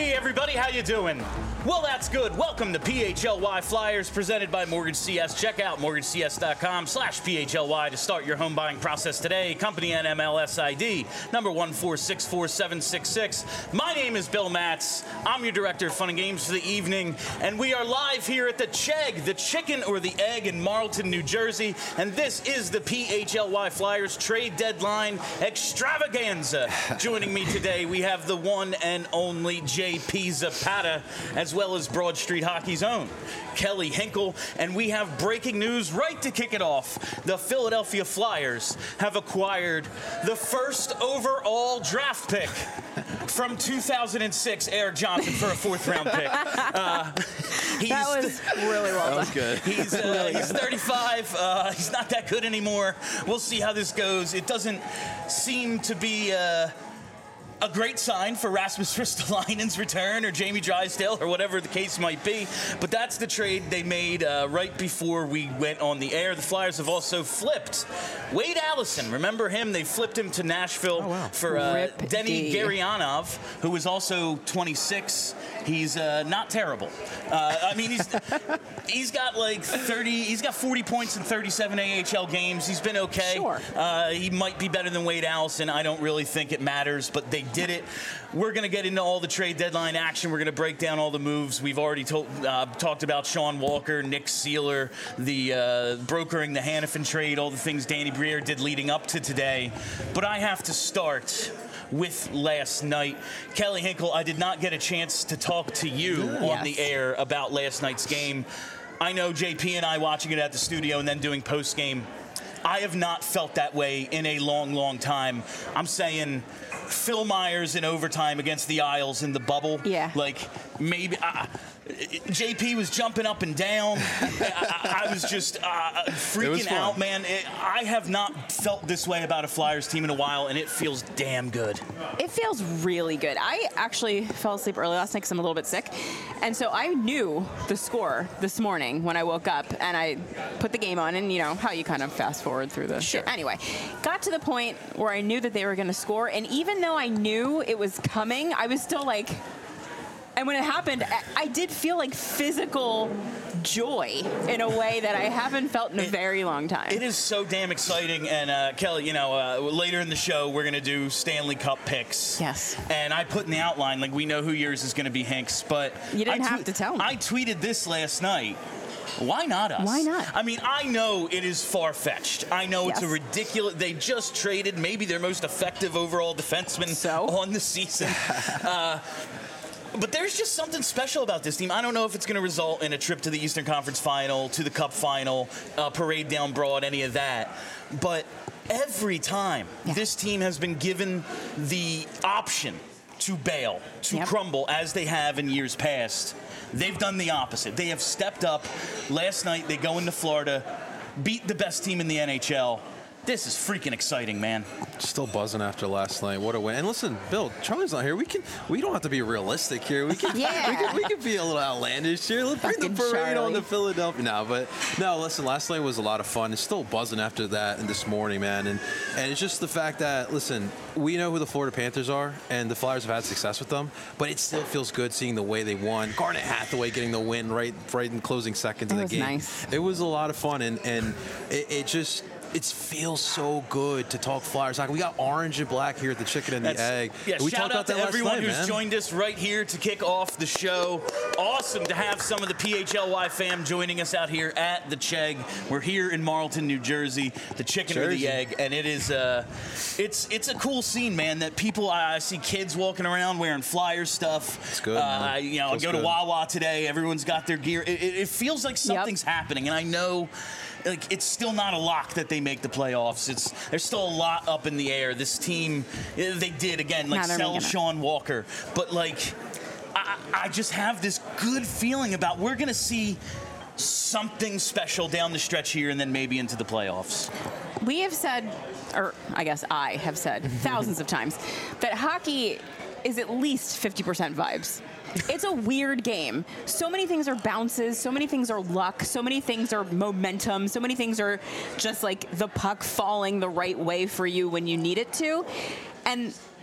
Hey everybody, how you doing? Well, that's good. Welcome to PHLY Flyers presented by Mortgage CS. Check out mortgagecs.com/PHLY to start your home buying process today. Company NMLS ID number 1464766. My name is Bill Matz. I'm your director of fun and games for the evening, and we are live here at the Chegg, the chicken or the egg in Marlton, New Jersey, and this is the PHLY Flyers trade deadline extravaganza. Joining me today, we have the one and only JP Zapata, as well as Broad Street Hockey's own Kelly Hinkle, and we have breaking news right to kick it off. The Philadelphia Flyers have acquired the first overall draft pick from 2006, Eric Johnson, for a fourth-round pick. That was really well done. That was good. He's 35. He's not that good anymore. We'll see how this goes. It doesn't seem to be a great sign for Rasmus Ristolainen's return or Jamie Drysdale or whatever the case might be. But that's the trade they made right before we went on the air. The Flyers have also flipped Wade Allison. Remember him? They flipped him to Nashville for Denny Gurianov, who is also 26. He's not terrible. I mean, he's got like 30. He's got 40 points in 37 AHL games. He's been okay. Sure. He might be better than Wade Allison. I don't really think it matters, but they did it. We're going to get into all the trade deadline action. We're going to break down all the moves. We've already talked about Sean Walker, Nick Seeler, the brokering the Hanifin trade, all the things Danny Briere did leading up to today. But I have to start with last night. Kelly Hinkle, I did not get a chance to talk to you on the air about last night's game. I know JP and I watching it at the studio and then doing post-game, I have not felt that way in a long, long time. I'm saying Phil Myers in overtime against the Isles in the bubble. Yeah. Like, maybe... JP was jumping up and down. I was just freaking out, man. I have not felt this way about a Flyers team in a while, and it feels damn good. It feels really good. I actually fell asleep early last night because I'm a little bit sick. And so I knew the score this morning when I woke up, and I put the game on, and you know how you kind of fast forward through the shit. Anyway, got to the point where I knew that they were going to score, and even though I knew it was coming, I was still like... And when it happened, I did feel like physical joy in a way that I haven't felt in a very long time. It is so damn exciting. And Kelly, you know, later in the show, we're going to do Stanley Cup picks. Yes. And I put in the outline, like, we know who yours is going to be, Hanks. But you didn't have to tell me. I tweeted this last night. Why not us? Why not? I mean, I know it is far-fetched. I know it's a ridiculous... They just traded maybe their most effective overall defenseman on the season. But there's just something special about this team. I don't know if it's going to result in a trip to the Eastern Conference Final, to the Cup Final, parade down Broad, any of that. But every time this team has been given the option to bail, to crumble, as they have in years past, they've done the opposite. They have stepped up. Last night, they go into Florida, beat the best team in the NHL. This is freaking exciting, man. Still buzzing after last night. What a win! And listen, Bill, Charlie's not here. We don't have to be realistic here. We can we can be a little outlandish here. Let's bring the parade on to Philadelphia now. But no, listen, last night was a lot of fun. It's still buzzing after that and this morning, man. And it's just the fact that, listen, we know who the Florida Panthers are, and the Flyers have had success with them. But it still feels good seeing the way they won. Garnet Hathaway getting the win right in closing seconds of the game. Nice. It was a lot of fun, and it just. It feels so good to talk Flyers hockey. We got orange and black here at the Chicken and the Egg. Yeah, we shout out to everyone who's joined us right here to kick off the show. Awesome to have some of the PHLY fam joining us out here at the Chegg. We're here in Marlton, New Jersey, the Chicken or the Egg, and it is it's a cool scene, man. That people, I see kids walking around wearing Flyers stuff. It's good. You know, I go to Wawa today. Everyone's got their gear. It feels like something's happening, and I know. Like, it's still not a lock that they make the playoffs. There's still a lot up in the air. This team, they did, again, like, sell Sean Walker. But, like, I just have this good feeling about we're going to see something special down the stretch here and then maybe into the playoffs. We have said, or I guess I have said thousands of times, that hockey is at least 50% vibes. It's a weird game. So many things are bounces, so many things are luck, so many things are momentum, so many things are just like the puck falling the right way for you when you need it to. And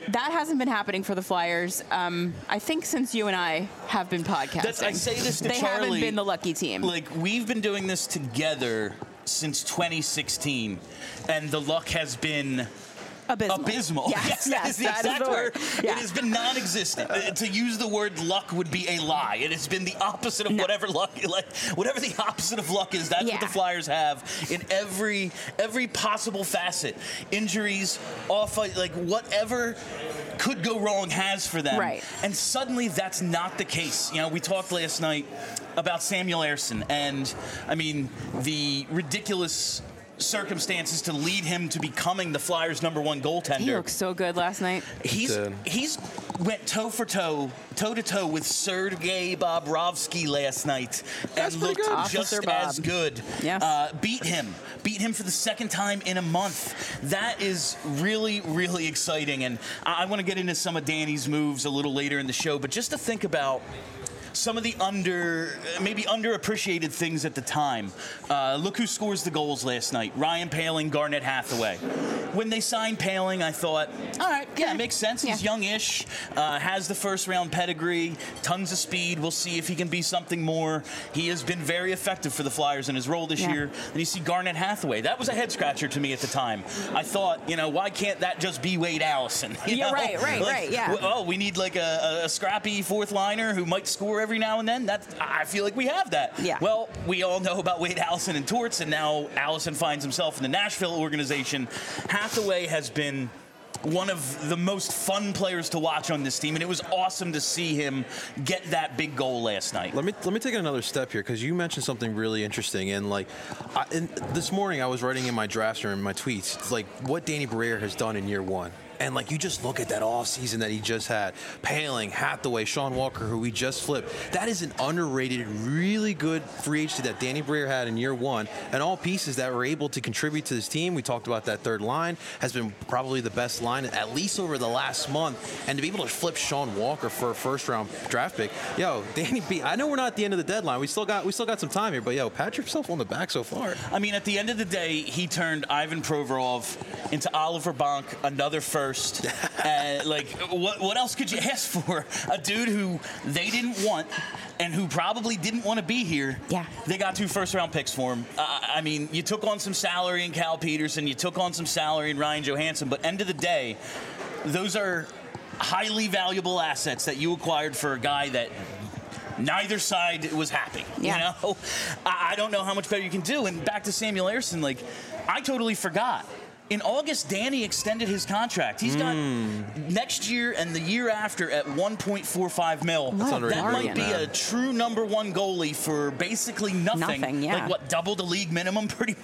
that hasn't been happening for the Flyers, I think, since you and I have been podcasting. I say this to Charlie. They haven't been the lucky team. Like, we've been doing this together since 2016, and the luck has been abysmal. Yes, that is the exact word. Yeah. It has been non-existent. To use the word luck would be a lie. It has been the opposite of whatever luck, whatever the opposite of luck is. That's what the Flyers have in every possible facet. Injuries, off, like whatever could go wrong has for them. Right. And suddenly that's not the case. You know, we talked last night about Samuel Ersson and, I mean, the ridiculous circumstances to lead him to becoming the Flyers' #1 goaltender. He looked so good last night. He's went toe to toe with Sergei Bobrovsky last night and looked just as good. Yes. Beat him for the second time in a month. That is really, really exciting. And I want to get into some of Danny's moves a little later in the show, but just to think about some of the maybe underappreciated things at the time. Look who scores the goals last night. Ryan Poehling, Garnet Hathaway. When they signed Poehling, I thought, all right, yeah, it makes sense. He's youngish, has the first-round pedigree, tons of speed. We'll see if he can be something more. He has been very effective for the Flyers in his role this year. And you see Garnet Hathaway. That was a head-scratcher to me at the time. I thought, why can't that just be Wade Allison? Right, yeah. Oh, we need like a scrappy fourth liner who might score every now and then. I feel like we have that. Yeah. Well, we all know about Wade Allison and Torts, and now Allison finds himself in the Nashville organization. Hathaway has been one of the most fun players to watch on this team, and it was awesome to see him get that big goal last night. Let me take another step here, because you mentioned something really interesting. And this morning I was writing in my drafts or in my tweets, it's like what Danny Briere has done in year one. And you just look at that off season that he just had. Poehling, Hathaway, Sean Walker, who we just flipped. That is an underrated, really good free agency that Danny Briere had in year one. And all pieces that were able to contribute to this team. We talked about that third line. Has been probably the best line, at least over the last month. And to be able to flip Sean Walker for a first-round draft pick. Danny B, I know we're not at the end of the deadline. We still got some time here. But, pat yourself on the back so far. I mean, at the end of the day, he turned Ivan Provorov into Oliver Bonk, another first. And what else could you ask for? A dude who they didn't want and who probably didn't want to be here. Yeah. They got 2 first-round picks for him. I mean, you took on some salary in Cal Peterson, you took on some salary in Ryan Johansson, but end of the day, those are highly valuable assets that you acquired for a guy that neither side was happy. Yeah. I don't know how much better you can do. And back to Samuel Ersson, I totally forgot. In August, Danny extended his contract. He's got next year and the year after at $1.45 million. That might be a true #1 goalie for basically nothing. Yeah. Double the league minimum, pretty,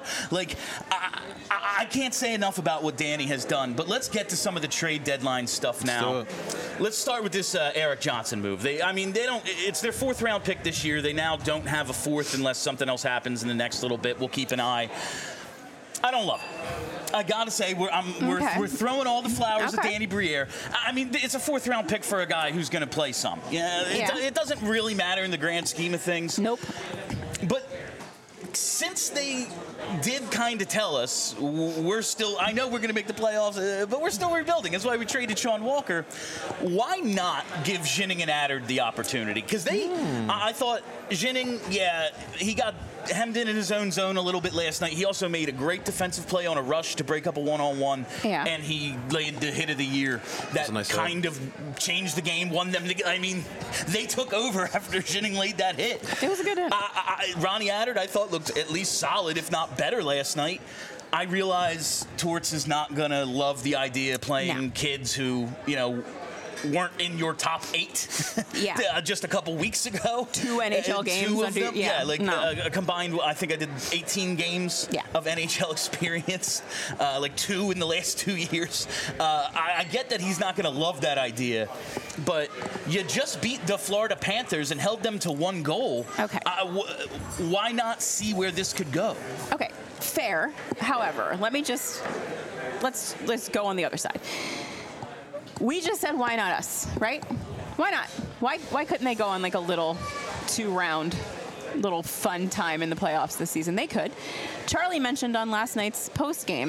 I can't say enough about what Danny has done, but let's get to some of the trade deadline stuff now. Let's start with this Erik Johnson move. It's their 4th-round pick this year. They now don't have a 4th unless something else happens in the next little bit. We'll keep an eye. I don't love it. I gotta say, we're throwing all the flowers at Danny Briere. I mean, it's a 4th-round pick for a guy who's going to play some. It doesn't really matter in the grand scheme of things. Nope. But since they did kind of tell us I know we're going to make the playoffs, but we're still rebuilding. That's why we traded Sean Walker. Why not give Ginning and Adder the opportunity? Because I thought Ginning, he got hemmed in his own zone a little bit last night. He also made a great defensive play on a rush to break up a one-on-one, and he laid the hit of the year that kind of changed the game, won them. They took over after Ginning laid that hit. It was a good hit. Ronnie Adder, I thought, looked at least solid, if not better last night. I realize Torts is not going to love the idea of playing kids who, weren't in your top 8 just a couple weeks ago. 2 NHL games. 2 of them. Combined, I think I did 18 games of NHL experience, 2 in the last 2 years. I get that he's not going to love that idea, but you just beat the Florida Panthers and held them to 1 goal. Okay. Why not see where this could go? Okay, fair. However, let's go on the other side. We just said, why not us, right? Why not? Why couldn't they go on a little 2-round, little fun time in the playoffs this season? They could. Charlie mentioned on last night's post game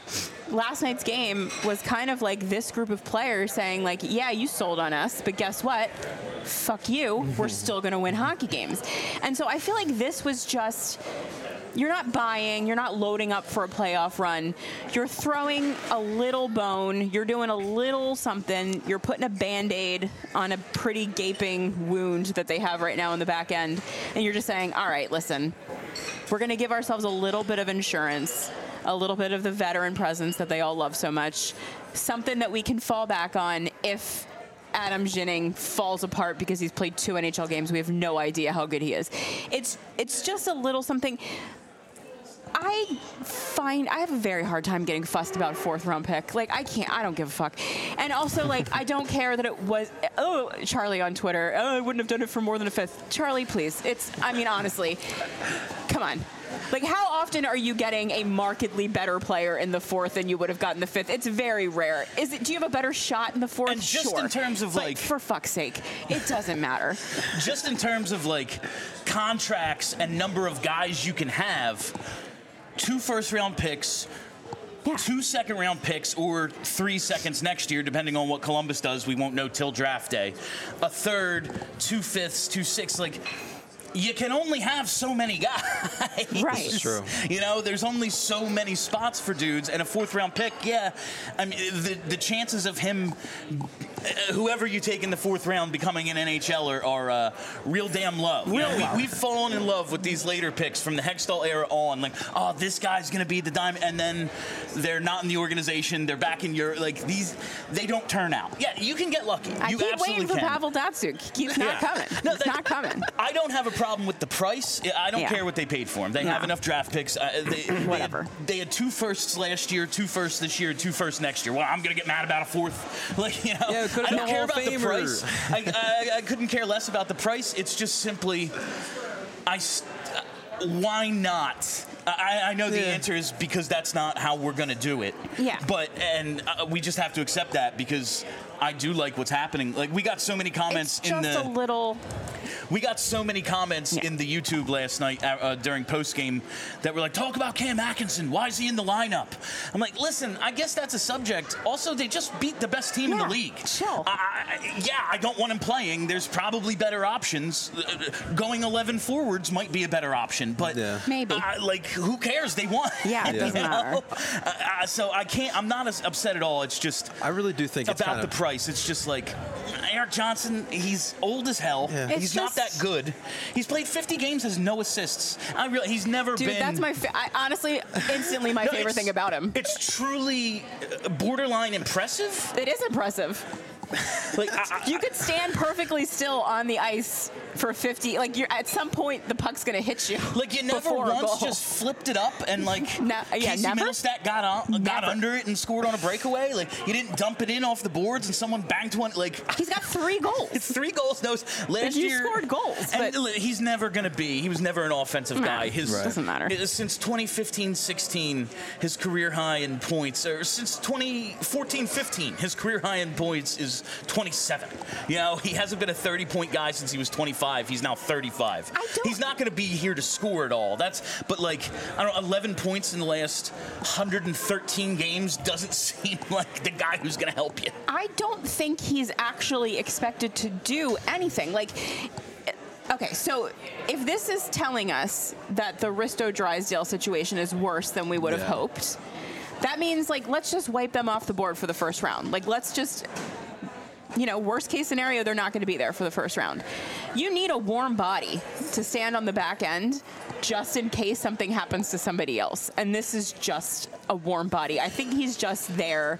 last night's game was kind of like this group of players saying, like, yeah, you sold on us, but guess what? Fuck you. We're still going to win hockey games. And so I feel like this was just, you're not buying, you're not loading up for a playoff run. You're throwing a little bone. You're doing a little something. You're putting a Band-Aid on a pretty gaping wound that they have right now in the back end. And you're just saying, all right, listen, we're going to give ourselves a little bit of insurance, a little bit of the veteran presence that they all love so much, something that we can fall back on if Adam Ginning falls apart because he's played 2 NHL games. We have no idea how good he is. It's just a little something. I have a very hard time getting fussed about a 4th round pick. Like, I don't give a fuck. And also, like, I don't care that it was, Charlie on Twitter, I wouldn't have done it for more than a 5th. Charlie, please. Honestly, come on. Like, how often are you getting a markedly better player in the 4th than you would have gotten the 5th? It's very rare. Do you have a better shot in the 4th? And just sure. In terms of, but for fuck's sake, it doesn't matter. Just in terms of, like, contracts and number of guys you can have, 2 first-round picks, 2 second-round picks, or 3 seconds next year, depending on what Columbus does. We won't know till draft day. A 3rd, 2 5ths, 2 6ths, like, you can only have so many guys. Right. It's true. You know, there's only so many spots for dudes, and a 4th round pick, yeah. I mean, the chances of him, whoever you take in the 4th round, becoming an NHLer are real damn low. We've fallen in love with these later picks from the Hextall era on. Like, oh, this guy's going to be the diamond, and then they're not in the organization. They're back in Europe. Like, they don't turn out. Yeah, you can get lucky. I keep waiting for Pavel Datsyuk. He keeps not coming. No, it's not coming. I don't have a problem with the price. I don't care what they paid for him. They have enough draft picks. Whatever. They had 2 firsts last year, 2 firsts this year, 2 firsts next year. Well, I'm going to get mad about a 4th. Like, you know, yeah, I don't care about the price. I couldn't care less about the price. It's just simply, why not? I know the answer is because that's not how we're going to do it. Yeah. But, we just have to accept that because I do like what's happening. Like, we got so many comments in the... We got so many comments in the YouTube last night during postgame that were like, talk about Cam Atkinson. Why is he in the lineup? I'm like, listen, I guess that's a subject. Also, they just beat the best team in the league. Chill. I don't want him playing. There's probably better options. Going 11 forwards might be a better option, but maybe. Like, who cares? They won. Yeah, it doesn't matter. So I'm not as upset at all. It's just I really do think about it's kind the price. It's just like Erik Johnson. He's old as hell. Yeah. He's not that good. He's played 50 games, has no assists. He's never been. Dude, that's honestly, instantly my favorite thing about him. It's truly borderline impressive. It is impressive. Like, you could stand perfectly still on the ice for 50. Like, at some point, the puck's going to hit you. Like, you never once just flipped it up and, like, Casey Middlestat got under it and scored on a breakaway. Like, you didn't dump it in off the boards and someone banked one. Like, he's got 3 goals. It's 3 goals. Last year, scored goals. And he's never going to be. He was never an offensive guy. Doesn't matter. Since 2015-16, his career high in points, or since 2014-15, his career high in points is 27. You know, he hasn't been a 30-point guy since he was 25. He's now 35. He's not going to be here to score at all. But like, I don't know, 11 points in the last 113 games doesn't seem like the guy who's going to help you. I don't think he's actually expected to do anything. Like, okay, so if this is telling us that the Risto Drysdale situation is worse than we would have hoped, that means, like, let's just wipe them off the board for the first round. Like, let's just... worst case scenario, they're not going to be there for the first round. You need a warm body to stand on the back end just in case something happens to somebody else. And this is just a warm body. I think he's just there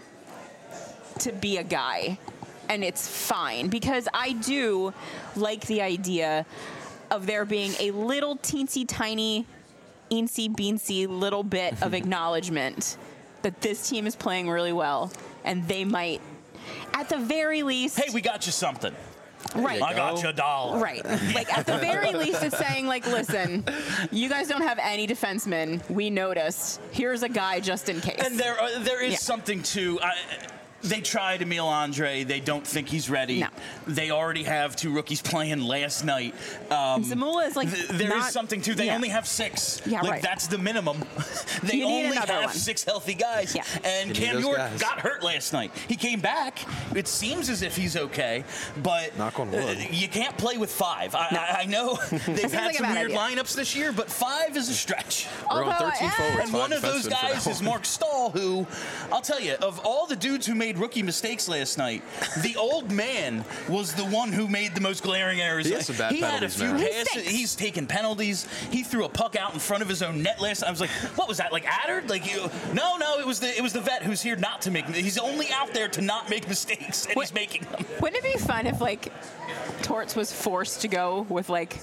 to be a guy. And it's fine. Because I do like the idea of there being a little teensy tiny, eensy beansy little bit of acknowledgement that this team is playing really well. And they might... At the very least... Hey, we got you something. Right. I got you $1. Right. Like, at the very least, it's saying, like, listen, you guys don't have any defensemen. We noticed. Here's a guy just in case. And there is something to... They tried Emil Andre. They don't think he's ready. No. They already have 2 rookies playing last night. And Zamula is like there is something to. They only have 6. Yeah, like right. that's the minimum. They You need only another have one. 6 healthy guys. Yeah. And Cam York got hurt last night. He came back. It seems as if he's okay, but knock on wood. You can't play with 5. I know they've had like a some bad weird idea. lineups this year, but 5 is a stretch. We're on 13 forwards. And one of those guys is Mark Stahl, who, I'll tell you, of all the dudes who made rookie mistakes last night, the old man was the one who made the most glaring errors. He has some bad he had a penalties, few man. passes. He's taken penalties. He threw a puck out in front of his own net last night. I was like, what was that, like Adder? Like, no, it was the vet who's here not to make. He's only out there to not make mistakes, and he's making them. Wouldn't it be fun if, like, Torts was forced to go with, like,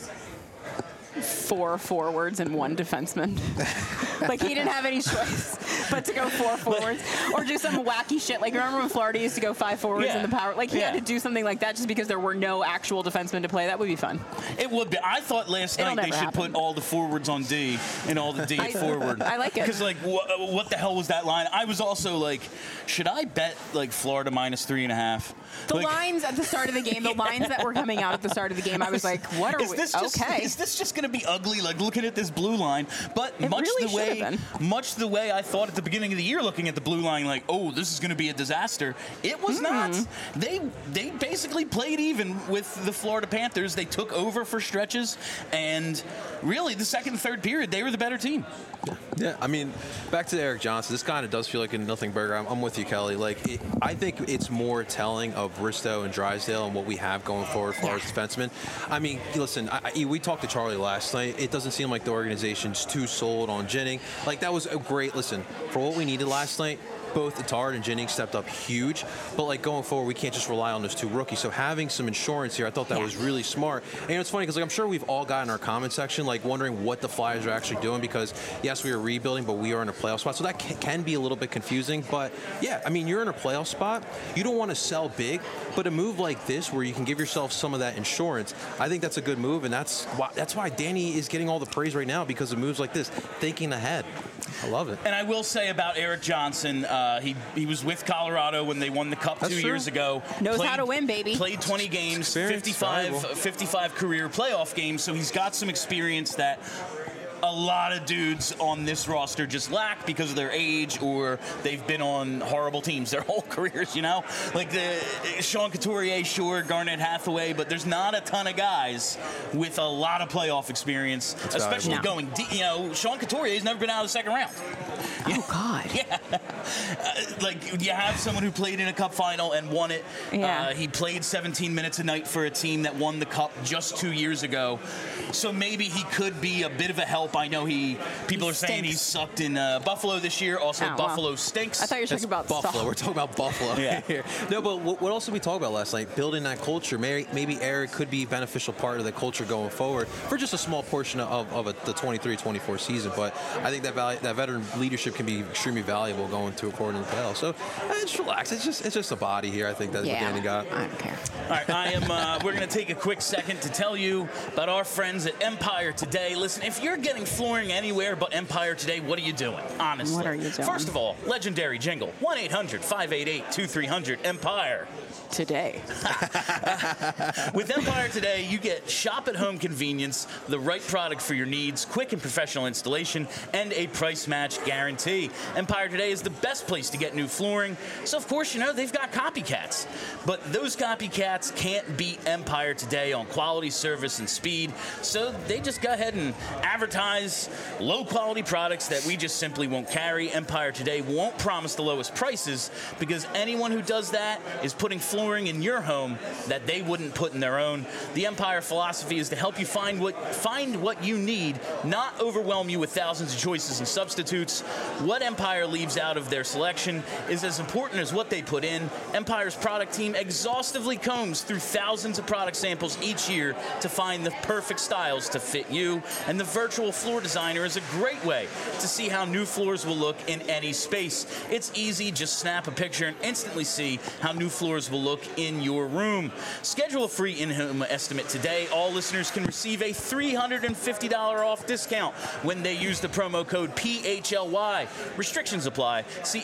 4 forwards and 1 defenseman? Like, he didn't have any choice but to go 4 forwards or do some wacky shit. Like, remember when Florida used to go 5 forwards in the power? Like, he had to do something like that just because there were no actual defensemen to play. That would be fun. It would be. I thought last night they should put all the forwards on D and all the D at forward. I like it. Because, like, what the hell was that line? I was also like, should I bet, like, Florida minus 3.5? The lines at the start of the game, the lines that were coming out at the start of the game, I was like, what are we? Okay. Is this just going to be ugly, like, looking at this blue line? But It much really the way I thought at the beginning of the year, looking at the blue line, like, oh, this is going to be a disaster. It was not. They basically played even with the Florida Panthers. They took over for stretches, and really, the second and third period, they were the better team. Yeah, I mean, back to Erik Johnson. This kind of does feel like a nothing burger. I'm with you, Kelly. Like, I think it's more telling of Risto and Drysdale and what we have going forward for our defensemen. I mean, listen, we talked to Charlie last night. It doesn't seem like the organization's too sold on Jennings. Like, that was a great, listen, for what we needed last night, both Attard and Jennings stepped up huge. But, like, going forward, we can't just rely on those 2 rookies. So having some insurance here, I thought that was really smart. And it's funny because, like, I'm sure we've all got in our comment section, like, wondering what the Flyers are actually doing because, yes, we are rebuilding, but we are in a playoff spot. So that can be a little bit confusing. But, yeah, I mean, you're in a playoff spot. You don't want to sell big, but a move like this where you can give yourself some of that insurance, I think that's a good move. And that's why Danny is getting all the praise right now because of moves like this, thinking ahead. I love it. And I will say about Erik Johnson, he was with Colorado when they won the Cup 2 years ago. Knows how to win, baby. Played 20 games, 55 career playoff games, so he's got some experience that a lot of dudes on this roster just lack because of their age or they've been on horrible teams their whole careers, you know? Like Sean Couturier, sure, Garnett Hathaway, but there's not a ton of guys with a lot of playoff experience, especially going deep. You know, Sean Couturier's never been out of the second round. Oh, God. Yeah. Like, you have someone who played in a Cup final and won it. Yeah. He played 17 minutes a night for a team that won the Cup just 2 years ago. So maybe he could be a bit of a help. I know people are saying he's sucked in Buffalo this year. Also, Buffalo stinks. I thought you were talking about Buffalo. We're talking about Buffalo here. No, but what else did we talk about last night? Building that culture. Maybe Erik could be a beneficial part of the culture going forward for just a small portion of the 23-24 season. But I think that veteran leadership can be extremely valuable going to according to the playoffs. So just relax. It's just a body here. I think that's what Danny got. I don't care. All right, we're going to take a quick second to tell you about our friends at Empire Today. Listen, if you're getting flooring anywhere but Empire Today, what are you doing? Honestly. What are you doing? First of all, legendary jingle, 1-800-588-2300, Empire Today. With Empire Today, you get shop-at-home convenience, the right product for your needs, quick and professional installation, and a price match guarantee. Empire Today is the best place to get new flooring, so of course, you know, they've got copycats. But those copycats can't beat Empire Today on quality, service, and speed, so they just go ahead and advertise low-quality products that we just simply won't carry. Empire Today won't promise the lowest prices because anyone who does that is putting flooring in your home that they wouldn't put in their own. The Empire philosophy is to help you find what you need, not overwhelm you with thousands of choices and substitutes. What Empire leaves out of their selection is as important as what they put in. Empire's product team exhaustively combs through thousands of product samples each year to find the perfect styles to fit you, and the virtual Floor Designer is a great way to see how new floors will look in any space. It's easy, just snap a picture and instantly see how new floors will look in your room. Schedule a free in-home estimate today. All listeners can receive a $350 off discount when they use the promo code PHLY. Restrictions apply. See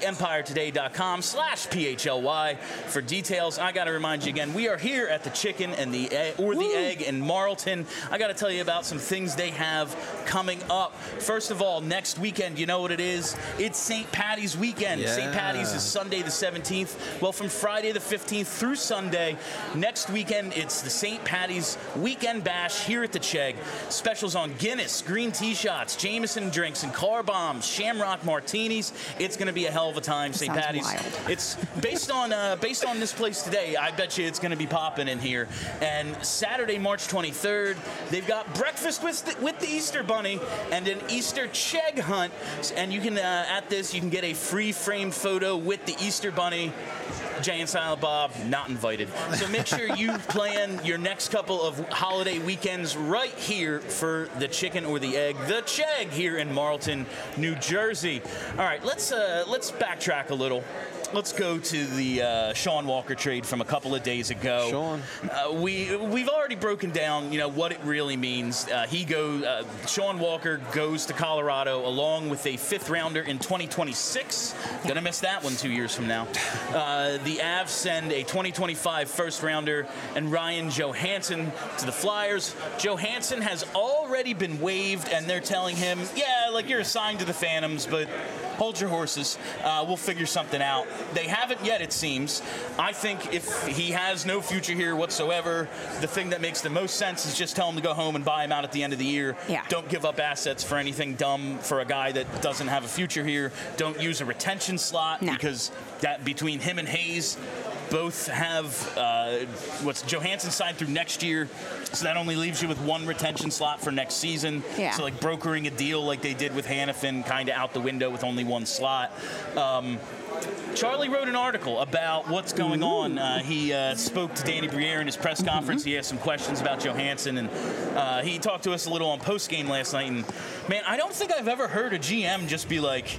EmpireToday.com/PHLY for details. I got to remind you again, we are here at the Chicken and the Egg in Marlton. I got to tell you about some things they have coming up. First of all, next weekend, you know what it is? It's St. Paddy's weekend. Yeah. St. Paddy's is Sunday the 17th. Well, from Friday the 15th through Sunday, next weekend, it's the St. Paddy's Weekend Bash here at the Chegg. Specials on Guinness, green tea shots, Jameson drinks, and car bombs, Shamrock martinis. It's going to be a hell of a time, St. Paddy's. Wild. It's based on this place today. I bet you it's going to be popping in here. And Saturday, March 23rd, they've got breakfast with the Easter Bunny and an Easter Chegg hunt. And you can at this you can get a free framed photo with the Easter Bunny. Jay and Silent Bob, not invited. So make sure you plan your next couple of holiday weekends right here for the Chicken or the Egg, the Chegg here in Marlton, New Jersey. All right, let's backtrack a little. Let's go to the Sean Walker trade from a couple of days ago. Sean. We've already broken down, what it really means. Sean Walker goes to Colorado along with a fifth rounder in 2026. Gonna miss that one 2 years from now. The Avs send a 2025 first rounder and Ryan Johansson to the Flyers. Johansson has already been waived, and they're telling him, you're assigned to the Phantoms, but hold your horses. We'll figure something out. They haven't yet, it seems. I think if he has no future here whatsoever, the thing that makes the most sense is just tell him to go home and buy him out at the end of the year. Yeah. Don't give up assets for anything dumb for a guy that doesn't have a future here. Don't use a retention slot because that between him and Hayes, both have Johansson signed through next year, so that only leaves you with one retention slot for next season. Yeah. So brokering a deal like they did with Hannafin kind of out the window with only one slot. Charlie wrote an article about what's going on. He spoke to Danny Briere in his press conference. He asked some questions about Johansson, and he talked to us a little on postgame last night. And man, I don't think I've ever heard a GM just be like,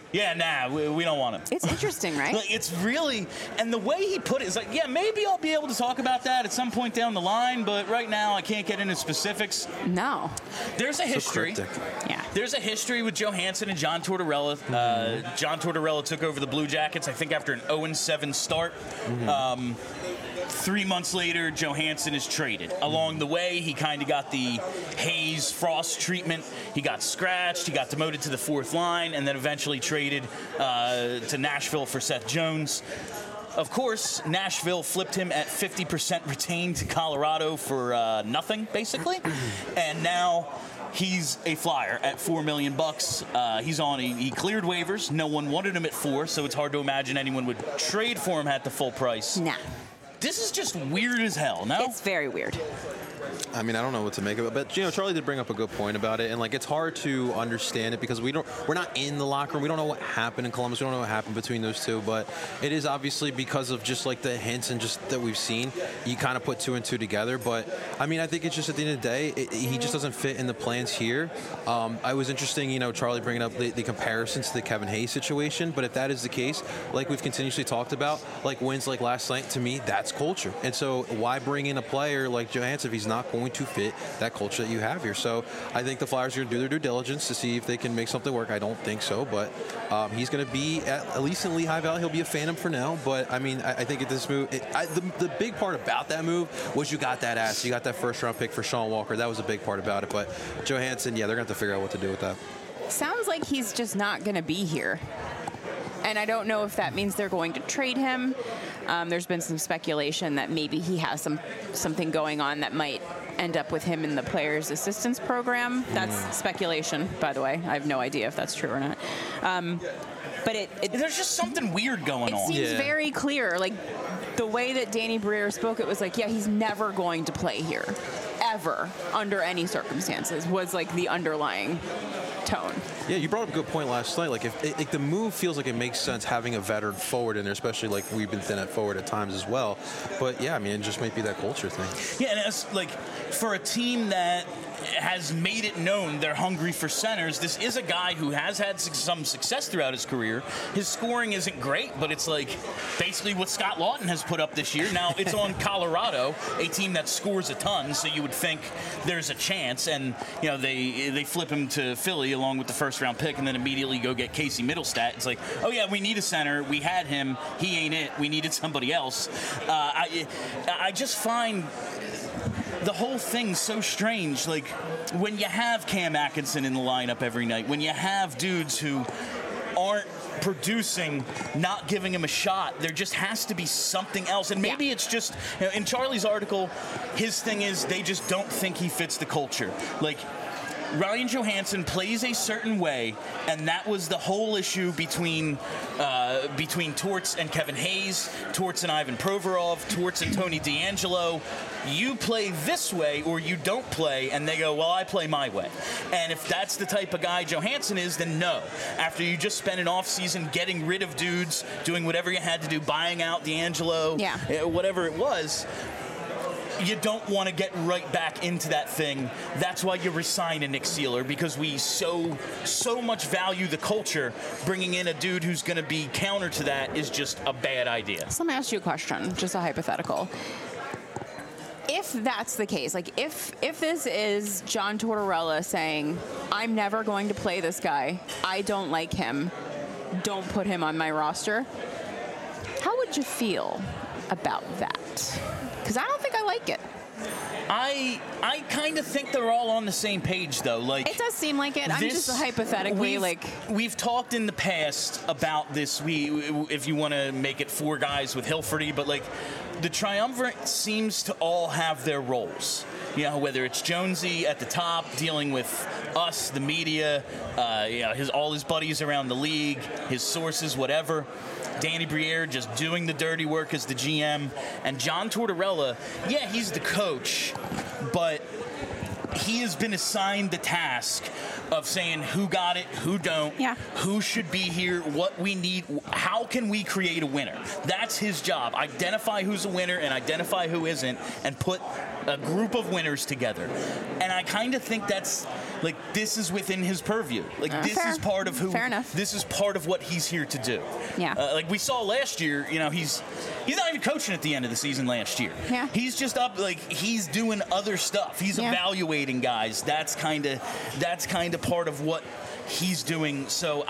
we don't want him. It's interesting, right? It's really, and the way he put it is maybe I'll be able to talk about that at some point down the line, but right now I can't get into specifics. No. There's a history. Yeah. There's a history with Johansson and John Tortorella. John Tortorella took over the Blue Jackets, I think, after an 0-7 start. 3 months later, Johansson is traded. Along the way, he kind of got the Hayes Frost treatment. He got scratched. He got demoted to the fourth line, and then eventually traded to Nashville for Seth Jones. Of course, Nashville flipped him at 50% retained to Colorado for nothing, basically. And now he's a Flyer at $4 million. He cleared waivers. No one wanted him at $4 million, so it's hard to imagine anyone would trade for him at the full price. Nah. This is just weird as hell, no? It's very weird. I mean, I don't know what to make of it, but Charlie did bring up a good point about it, and it's hard to understand it because we're not in the locker room. We don't know what happened in Columbus. We don't know what happened between those two, but it is obviously because of just the hints and just that we've seen. You kind of put two and two together, but I mean, I think it's just at the end of the day, he just doesn't fit in the plans here. I was interesting, Charlie bringing up the comparison to the Kevin Hayes situation, but if that is the case, like we've continuously talked about, wins like last night, to me, that's culture. And so why bring in a player like Johansson if he's not going to fit that culture that you have here? So I think the Flyers are going to do their due diligence to see if they can make something work. I don't think so, but he's going to be, at least in Lehigh Valley, he'll be a Phantom for now. But I mean, I think at this move, the big part about that move was you got that ass. You got that first round pick for Sean Walker. That was a big part about it. But Johansson, they're going to have to figure out what to do with that. Sounds like he's just not going to be here. And I don't know if that means they're going to trade him. There's been some speculation that maybe he has something going on that might end up with him in the Players Assistance Program. That's speculation, by the way. I have no idea if that's true or not. But there's just something weird going on. It seems very clear. The way that Danny Briere spoke, it was he's never going to play here, ever, under any circumstances, was the underlying tone. Yeah, you brought up a good point last night. If the move feels like it makes sense having a veteran forward in there, especially we've been thin at forward at times as well. But yeah, I mean, it just might be that culture thing. Yeah, and it's for a team that has made it known they're hungry for centers. This is a guy who has had some success throughout his career. His scoring isn't great, but it's like basically what Scott Lawton has put up this year. Now, it's on Colorado, a team that scores a ton, so you would think there's a chance. And, you know, they flip him to Philly along with the first-round pick and then immediately go get Casey Middlestat. It's like, oh, yeah, we need a center. We had him. He ain't it. We needed somebody else. I just find the whole thing's so strange. Like, when you have Cam Atkinson in the lineup every night, when you have dudes who aren't producing, not giving him a shot, there just has to be something else. And maybe it's just, you know, in Charlie's article, his thing is they just don't think he fits the culture. Like, Ryan Johansson plays a certain way, and that was the whole issue between Torts and Kevin Hayes, Torts and Ivan Provorov, Torts and Tony DeAngelo. You play this way or you don't play, and they go, well, I play my way. And if that's the type of guy Johansson is, then no. After you just spent an offseason getting rid of dudes, doing whatever you had to do, buying out DeAngelo, whatever it was, you don't want to get right back into that thing. That's why you resign a Nick Seeler, because we so much value the culture. Bringing in a dude who's going to be counter to that is just a bad idea. So let me ask you a question, just a hypothetical. If that's the case, like if this is John Tortorella saying, I'm never going to play this guy, I don't like him, don't put him on my roster, how would you feel about that? Because I don't think I like it. I kind of think they're all on the same page, though. Like, it does seem like it. I'm just hypothetically we've talked in the past about this. If you want to make it four guys with Hilferty, but like the triumvirate seems to all have their roles. You know, whether it's Jonesy at the top dealing with us, the media, all his buddies around the league, his sources, whatever. Danny Briere just doing the dirty work as the GM. And John Tortorella, yeah, he's the coach, but he has been assigned the task of saying who got it, who don't, who should be here, what we need, how can we create a winner. That's his job. Identify who's a winner and identify who isn't, and put a group of winners together. And I kind of think that's, like, this is within his purview. Like, this is part of who. Fair enough. This is part of what he's here to do. Yeah. Like we saw last year, you know, he's not even coaching at the end of the season last year. Yeah. He's just up, like, he's doing other stuff. He's evaluating guys. That's kind of part of what he's doing. So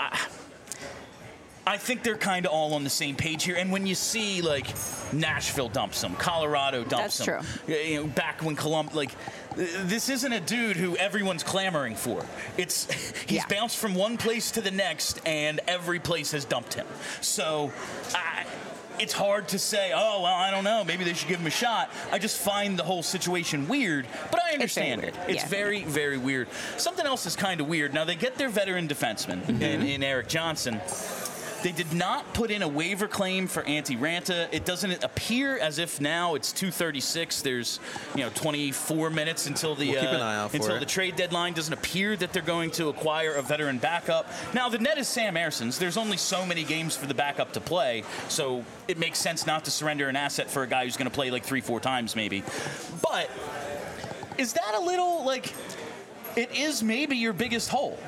I think they're kind of all on the same page here. And when you see, like, Nashville dumps them, Colorado dumps them. That's true. You know, back when Columbus, like, this isn't a dude who everyone's clamoring for. He's bounced from one place to the next, and every place has dumped him. So it's hard to say, oh, well, I don't know, maybe they should give him a shot. I just find the whole situation weird, but I understand it. It's very, very weird. Something else is kind of weird. Now, they get their veteran defenseman in Erik Johnson. They did not put in a waiver claim for Antti Raanta. It doesn't appear as if now it's 2:36. There's 24 minutes until the keep an eye out for the trade deadline. Doesn't appear that they're going to acquire a veteran backup. Now the net is Sam Erson's. There's only so many games for the backup to play, so it makes sense not to surrender an asset for a guy who's going to play like 3-4 times maybe. But is that a little like? It is maybe your biggest hole.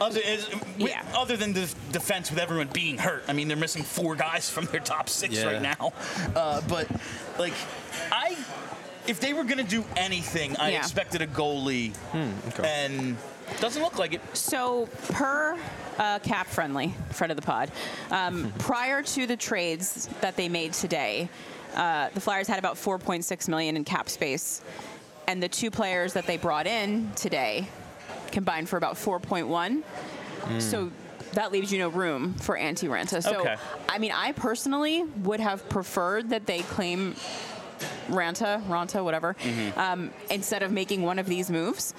Other than the defense with everyone being hurt. I mean, they're missing 4 guys from their top 6 right now. But, like, if they were going to do anything, I expected a goalie. And doesn't look like it. So, per Cap Friendly, friend of the pod, prior to the trades that they made today, the Flyers had about $4.6 million in cap space. And the 2 players that they brought in today combined for about 4.1. So that leaves you no room for Antti Raanta. So, I mean, I personally would have preferred that they claim Raanta, whatever, instead of making one of these moves.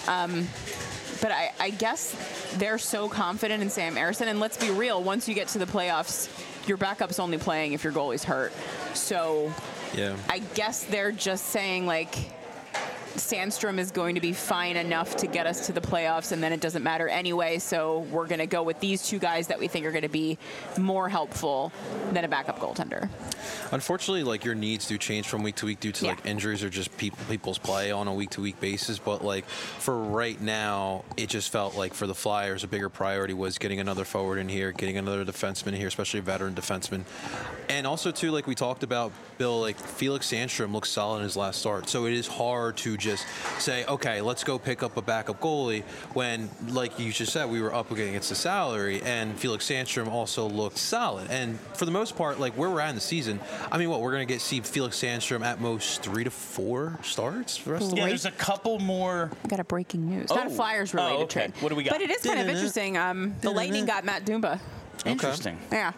But I guess they're so confident in Sam Ersson. And let's be real, once you get to the playoffs, your backup's only playing if your goalie's hurt. So I guess they're just saying, like, Sandstrom is going to be fine enough to get us to the playoffs, and then it doesn't matter anyway. So we're going to go with these two guys that we think are going to be more helpful than a backup goaltender. Unfortunately, like, your needs do change from week to week due to like injuries or just people's play on a week-to-week basis. But like for right now, it just felt like for the Flyers, a bigger priority was getting another forward in here, getting another defenseman here, especially a veteran defenseman. And also too, like we talked about, Bill, like Felix Sandstrom looks solid in his last start. So it is hard to just say, okay, let's go pick up a backup goalie when, like you just said, we were up against the salary, and Felix Sandstrom also looked solid. And for the most part, like where we're at in the season, I mean, we're going to see Felix Sandstrom at most 3 to 4 starts for the rest of the Yeah, there's a couple more. I got a breaking news. Not a Flyers-related trade. What do we got? But it is kind of interesting. The Lightning got Matt Dumba. Interesting. Yeah.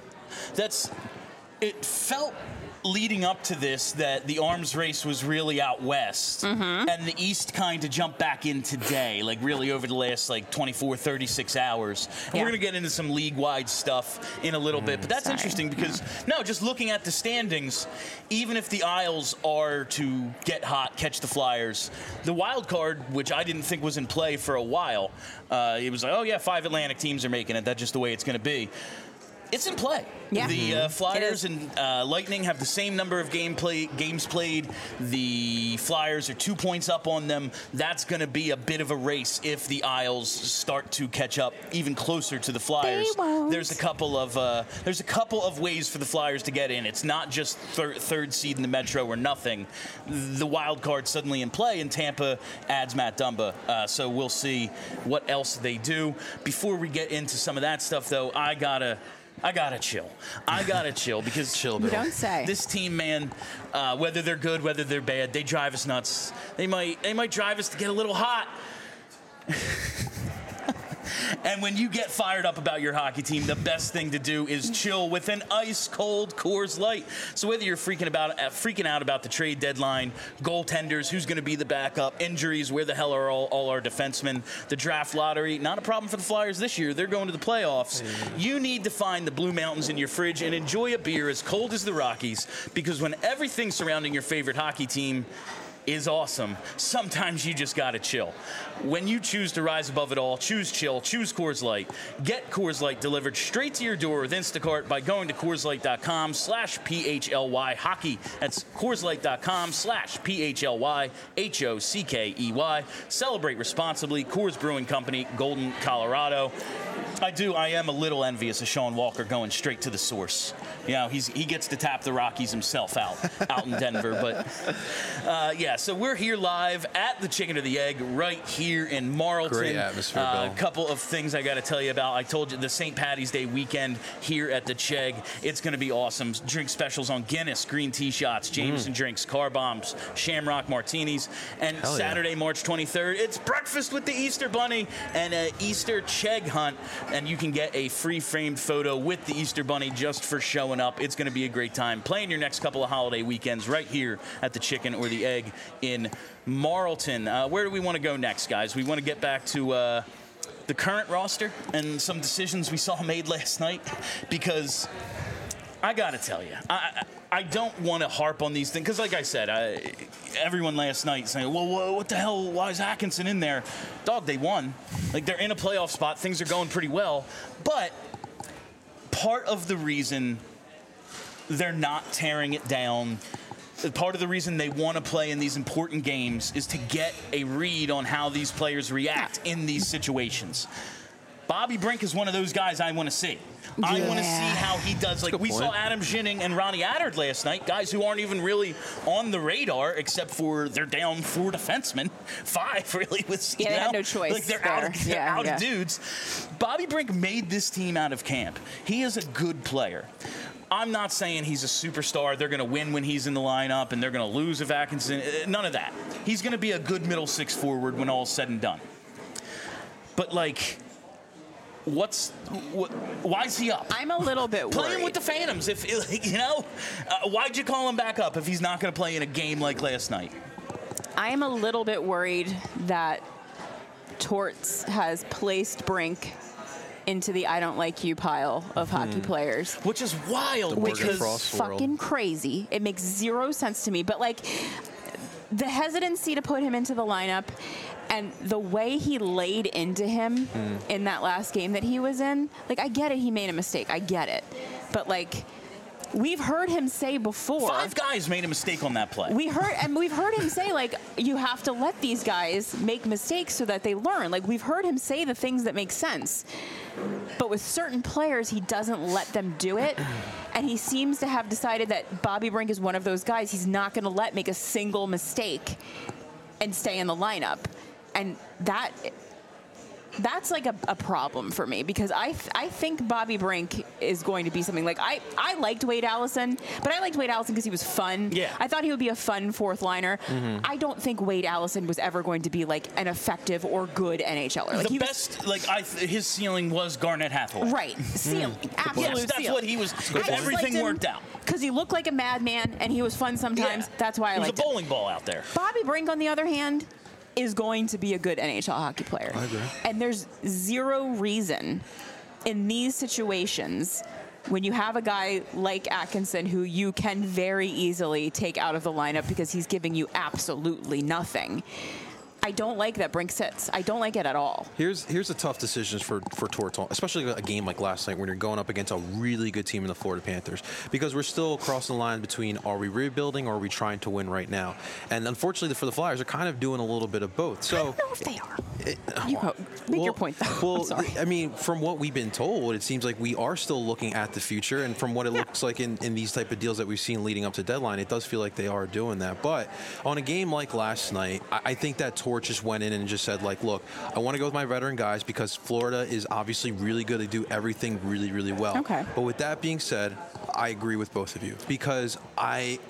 It felt leading up to this that the arms race was really out west, and the East kind of jumped back in today, like really over the last like 24, 36 hours. And we're going to get into some league-wide stuff in a little bit, but that's interesting because, just looking at the standings, even if the Isles are to get hot, catch the Flyers, the wild card, which I didn't think was in play for a while, it was like, 5 Atlantic teams are making it. That's just the way it's going to be. It's in play. Yeah. The Flyers and Lightning have the same number of games played. The Flyers are 2 points up on them. That's going to be a bit of a race if the Isles start to catch up even closer to the Flyers. They won't. There's a couple of ways for the Flyers to get in. It's not just third seed in the Metro or nothing. The wild card suddenly in play, and Tampa adds Matt Dumba. So we'll see what else they do. Before we get into some of that stuff, though, I gotta chill. I gotta chill because You don't say. This team, man, whether they're good, whether they're bad, they drive us nuts. They might drive us to get a little hot. And when you get fired up about your hockey team, the best thing to do is chill with an ice-cold Coors Light. So whether you're freaking out about the trade deadline, goaltenders, who's going to be the backup, injuries, where the hell are all our defensemen, the draft lottery, not a problem for the Flyers this year. They're going to the playoffs. You need to find the Blue Mountains in your fridge and enjoy a beer as cold as the Rockies, because when everything surrounding your favorite hockey team is awesome, sometimes you just gotta chill. When you choose to rise above it all, choose chill, choose Coors Light. Get Coors Light delivered straight to your door with Instacart by going to CoorsLight.com/PHLY hockey. That's CoorsLight.com/PHLY HOCKEY. Celebrate responsibly. Coors Brewing Company, Golden, Colorado. I am a little envious of Sean Walker going straight to the source. He gets to tap the Rockies himself out in Denver. But so we're here live at the Chicken or the Egg right here in Marlton. Great atmosphere, Bill. A couple of things I got to tell you about. I told you the St. Patty's Day weekend here at the Chegg. It's going to be awesome. Drink specials on Guinness, green tea shots, Jameson drinks, car bombs, Shamrock martinis. And Saturday, March 23rd, it's breakfast with the Easter Bunny and an Easter Chegg hunt. And you can get a free framed photo with the Easter Bunny just for showing up. It's going to be a great time. Playing your next couple of holiday weekends right here at the Chicken or the Egg in Marlton. Where do we want to go next, guys? We want to get back to the current roster and some decisions we saw made last night, because I got to tell you, I don't want to harp on these things, because like I said, everyone last night saying, well, what the hell, why is Atkinson in there? Dog, they won. Like, they're in a playoff spot. Things are going pretty well. But part of the reason they're not tearing it down, part of the reason they want to play in these important games, is to get a read on how these players react in these situations. Bobby Brink is one of those guys I want to see. I want to see how he does. Like, we saw Adam Ginning and Ronnie Attard last night, guys who aren't even really on the radar, except for they're down 4 defensemen, 5 really. They had no choice. Like, they're out of dudes. Bobby Brink made this team out of camp. He is a good player. I'm not saying he's a superstar. They're going to win when he's in the lineup, and they're going to lose if Atkinson. None of that. He's going to be a good middle six forward when all's said and done. But, like, why is he up? I'm a little bit worried. Play him with the Phantoms. Why'd you call him back up if he's not going to play in a game like last night? I am a little bit worried that Torts has placed Brink into the I don't like you pile of hockey players. Which is wild. Which is fucking crazy. It makes zero sense to me. But, like, the hesitancy to put him into the lineup and the way he laid into him in that last game that he was in, like, I get it, he made a mistake. I get it. But, like, we've heard him say before. 5 guys made a mistake on that play. We've heard him say, like, you have to let these guys make mistakes so that they learn. Like, we've heard him say the things that make sense. But with certain players, he doesn't let them do it. And he seems to have decided that Bobby Brink is one of those guys he's not going to let make a single mistake and stay in the lineup. And that's like a problem for me, because I think Bobby Brink is going to be something like, I liked Wade Allison, but I liked Wade Allison because he was fun. Yeah. I thought he would be a fun fourth liner. I don't think Wade Allison was ever going to be like an effective or good NHLer. Like, his ceiling was Garnet Hathaway. Right. Ceiling. Absolute Yes, that's ceiling. what he was. If everything worked out. Because he looked like a madman and he was fun sometimes. Yeah. That's why I liked him. He was a him. bowling ball out there. Bobby Brink, on the other hand, is going to be a good NHL hockey player. I agree. And there's zero reason in these situations when you have a guy like Atkinson who you can very easily take out of the lineup because he's giving you absolutely nothing. I don't like that Brink sits. I don't like it at all. Here's a tough decision for Torts, especially a game like last night when you're going up against a really good team in the Florida Panthers, because we're still crossing the line between, are we rebuilding or are we trying to win right now? And unfortunately for the Flyers, they're kind of doing a little bit of both. So I don't know if they are. Make your point, though. Well, I'm sorry. I mean, from what we've been told, it seems like we are still looking at the future, and from what it looks like in these type of deals that we've seen leading up to deadline, it does feel like they are doing that. But on a game like last night, I think that Torts just went in and just said, like, look, I want to go with my veteran guys because Florida is obviously really good. They do everything really, really well. Okay. But with that being said, I agree with both of you, because I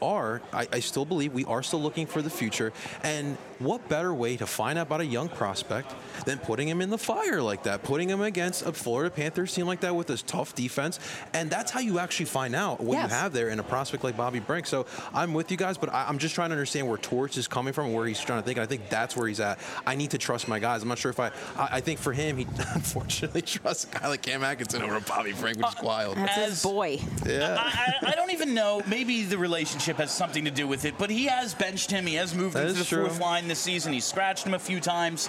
still believe we are still looking for the future. And what better way to find out about a young prospect than putting him in the fire like that, putting him against a Florida Panthers team like that with this tough defense. And that's how you actually find out what you have there in a prospect like Bobby Brink. So I'm with you guys, but I'm just trying to understand where Torts is coming from, where he's trying to think. And I think that's where he's at. I need to trust my guys. I'm not sure if I think for him, he unfortunately trusts a guy like Cam Atkinson over Bobby Brink, which is wild. That's his boy. Yeah. I don't even know. Maybe the relationship has something to do with it, but he has benched him. He has moved into the fourth line this season. He's scratched him a few times.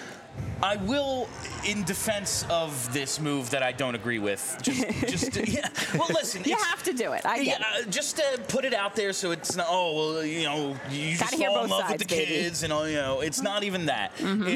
I will, in defense of this move that I don't agree with, yeah. Well, listen, you have to do it. I get it. Just to put it out there, so it's not. Oh, well, you just fall in love with the kids, and it's not even that.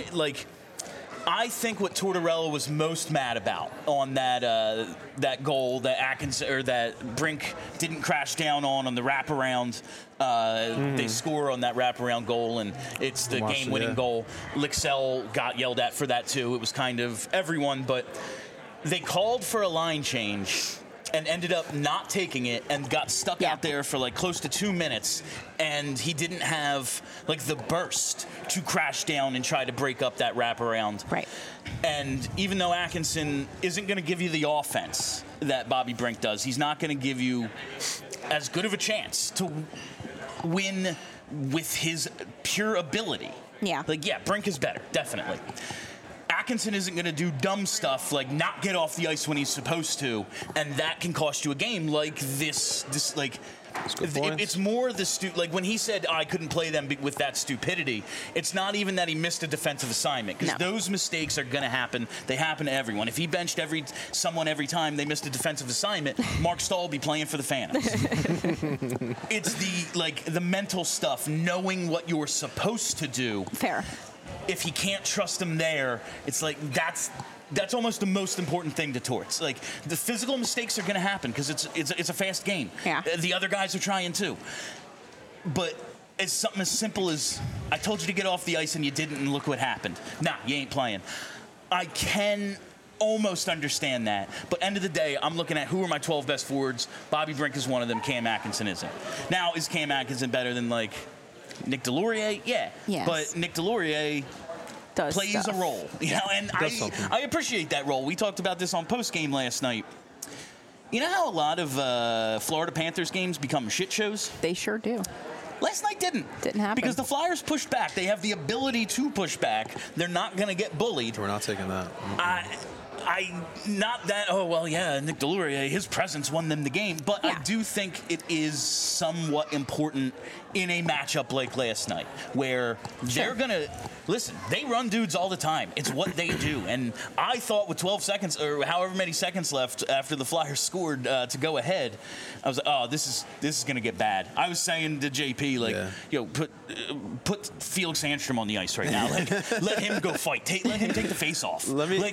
I think what Tortorella was most mad about on that goal that Atkinson or that Brink didn't crash down on the wraparound. They score on that wraparound goal, and it's the game-winning goal. Lixell got yelled at for that too. It was kind of everyone, but they called for a line change and ended up not taking it and got stuck out there for like close to 2 minutes, and he didn't have like the burst to crash down and try to break up that wraparound. Right. And even though Atkinson isn't going to give you the offense that Bobby Brink does, he's not going to give you as good of a chance to win with his pure ability. Yeah. Brink is better, definitely. Atkinson isn't going to do dumb stuff like not get off the ice when he's supposed to, and that can cost you a game like this it's more the like when he said I couldn't play them with that stupidity. It's not even that he missed a defensive assignment, because those mistakes are going to happen. They happen to everyone. If he benched someone every time they missed a defensive assignment, Mark Stahl would be playing for the Phantoms. It's the mental stuff, knowing what you're supposed to do. Fair. If he can't trust him there, it's like that's almost the most important thing to Torts. Like, the physical mistakes are going to happen because it's a fast game. Yeah. The other guys are trying too. But it's something as simple as, I told you to get off the ice and you didn't, and look what happened. Nah, you ain't playing. I can almost understand that. But end of the day, I'm looking at who are my 12 best forwards. Bobby Brink is one of them. Cam Atkinson isn't. Now, is Cam Atkinson better than Nick Deslauriers? Yeah. Yes. But Nick Deslauriers plays a role, and I appreciate that role. We talked about this on post game last night. You know how a lot of Florida Panthers games become shit shows? They sure do. Last night didn't happen because the Flyers pushed back. They have the ability to push back. They're not going to get bullied. We're not taking that. not that, oh, well, yeah, Nick Deslauriers, his presence won them the game, but I do think it is somewhat important in a matchup like last night, where they're going to, listen, they run dudes all the time. It's what they do. And I thought with 12 seconds, or however many seconds left after the Flyers scored to go ahead, I was like, oh, this is going to get bad. I was saying to JP, like, put Felix Sandstrom on the ice right now. Like, let him go fight. Let him take the face off.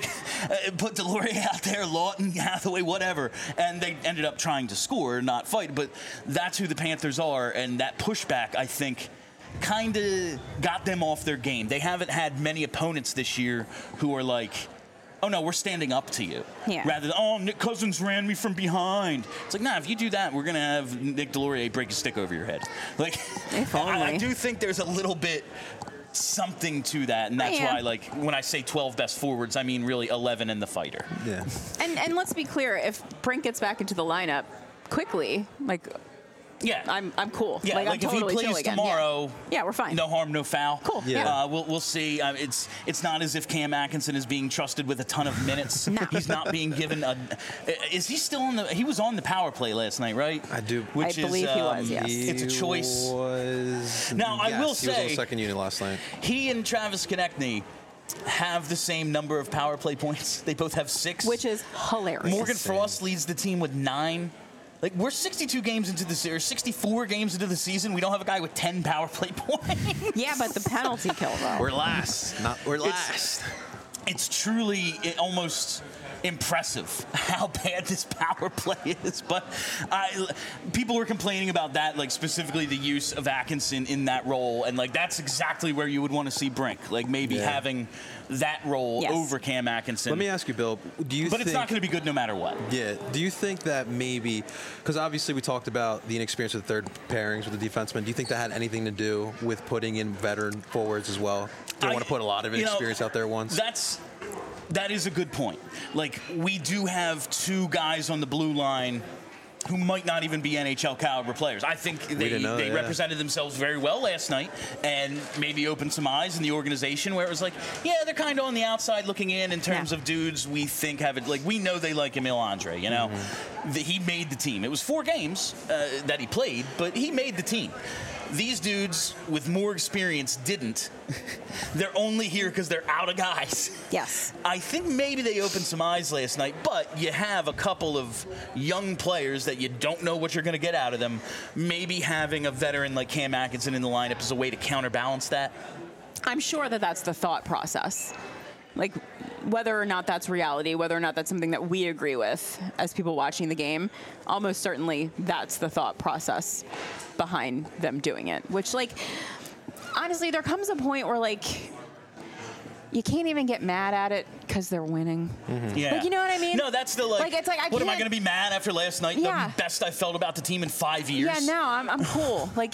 Put Deslauriers out there, Lawton, Hathaway, whatever. And they ended up trying to score, not fight. But that's who the Panthers are, and that pushback, I think, kind of got them off their game. They haven't had many opponents this year who are like, oh, no, we're standing up to you. Yeah. Rather than, oh, Nick Cousins ran me from behind. It's like, nah, if you do that, we're going to have Nick Deslauriers break a stick over your head. Like, I do think there's a little bit something to that, and that's why, like, when I say 12 best forwards, I mean really 11 and the fighter. Yeah. And let's be clear, if Brink gets back into the lineup quickly, like, yeah, I'm cool. Yeah, like I'm totally if he plays tomorrow, yeah, we're fine. No harm, no foul. Cool. Yeah. We'll see. It's not as if Cam Atkinson is being trusted with a ton of minutes. No. He's not being given a. Is he still on the? He was on the power play last night, right? I do. I believe he was. Yes. It's a choice. Now I will say he was on second unit last night. He and Travis Konechny have the same number of power play points. They both have 6, which is hilarious. Morgan Frost leads the team with 9. Like, we're 62 games into the series, 64 games into the season. We don't have a guy with 10 power play points. Yeah, but the penalty kill, though. We're last. We're last. It's truly almost impressive how bad this power play is. But people were complaining about that, like specifically the use of Atkinson in that role. And, like, that's exactly where you would want to see Brink. Like, maybe having that role over Cam Atkinson. Let me ask you, Bill, do you think... But it's not going to be good no matter what. Yeah. Do you think that maybe... Because obviously we talked about the inexperience of the third pairings with the defensemen. Do you think that had anything to do with putting in veteran forwards as well? Do you want to put a lot of inexperience out there at once? That is a good point. Like, we do have 2 guys on the blue line who might not even be NHL caliber players. I think they represented themselves very well last night and maybe opened some eyes in the organization where it was like, yeah, they're kind of on the outside looking in terms of dudes we think have it. Like, we know they like Emil Andre, you know? Mm-hmm. He made the team. It was 4 games that he played, but he made the team. These dudes with more experience didn't. They're only here because they're out of guys. Yes. I think maybe they opened some eyes last night, but you have a couple of young players that you don't know what you're going to get out of them. Maybe having a veteran like Cam Atkinson in the lineup is a way to counterbalance that. I'm sure that that's the thought process. Like, whether or not that's reality, whether or not that's something that we agree with as people watching the game, almost certainly that's the thought process behind them doing it. Which, like, honestly, there comes a point where, like, you can't even get mad at it because they're winning. Mm-hmm. Yeah. Like, you know what I mean? No, that's the, like it's like, what am I going to be mad after last night? Yeah. The best I felt about the team in 5 years? Yeah, no, I'm cool. Like,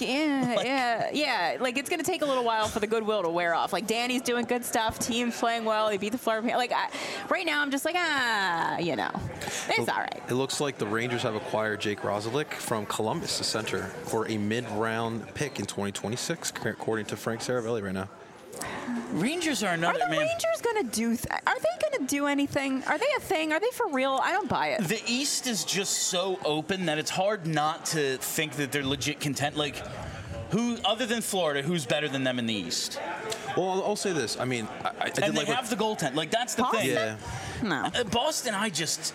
yeah. Like, it's going to take a little while for the goodwill to wear off. Like, Danny's doing good stuff. Team's playing well. He beat the Flyers. Like, right now, I'm just like, you know, it's all right. It looks like the Rangers have acquired Jake Roslovic from Columbus, the center, for a mid-round pick in 2026, according to Frank Saravelli right now. Rangers are another, man. Are the Rangers going to do... Are they going to do anything? Are they a thing? Are they for real? I don't buy it. The East is just so open that it's hard not to think that they're legit content. Like, who, other than Florida, who's better than them in the East? Well, I'll say this. I mean, I did and they have the goaltend. Like, that's the Boston? thing. Yeah. No. Boston, I just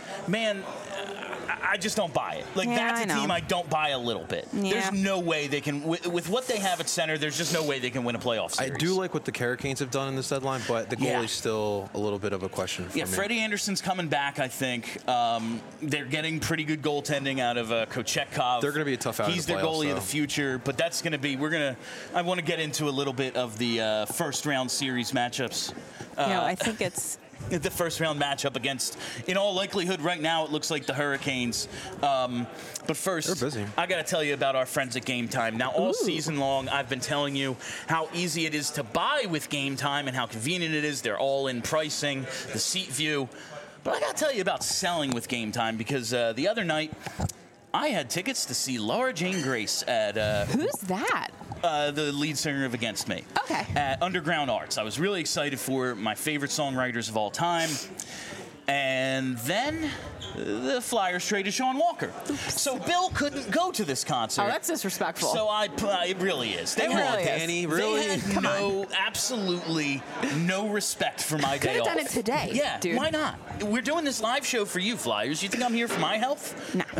don't buy it. Like, that's a team I don't buy a little bit. Yeah. There's no way they can, with what they have at center, there's just no way they can win a playoff series. I do like what the Hurricanes have done in this deadline, but the goalie's still a little bit of a question for me. Freddie Anderson's coming back, I think. They're getting pretty good goaltending out of Kochetkov. They're going to be a tough out. He's their goalie of the future, but that's going to be, I want to get into a little bit of the first round series matchups. I think it's... The first round matchup against, in all likelihood, right now it looks like the Hurricanes. But first, they're busy. I got to tell you about our friends at Game Time. Now, all season long, I've been telling you how easy it is to buy with Game Time and how convenient it is. They're all in pricing, the seat view. But I got to tell you about selling with Game Time because the other night I had tickets to see Laura Jane Grace at... Who's that? The lead singer of Against Me. Okay. At Underground Arts. I was really excited for my favorite songwriters of all time. And then the Flyers traded Sean Walker. So Bill couldn't go to this concert. Oh, that's disrespectful. So it really is. It really is. Danny, really? They had absolutely no respect for my day off. Could have done it today. Yeah, dude. why not? We're doing this live show for you, Flyers. You think I'm here for my health? No.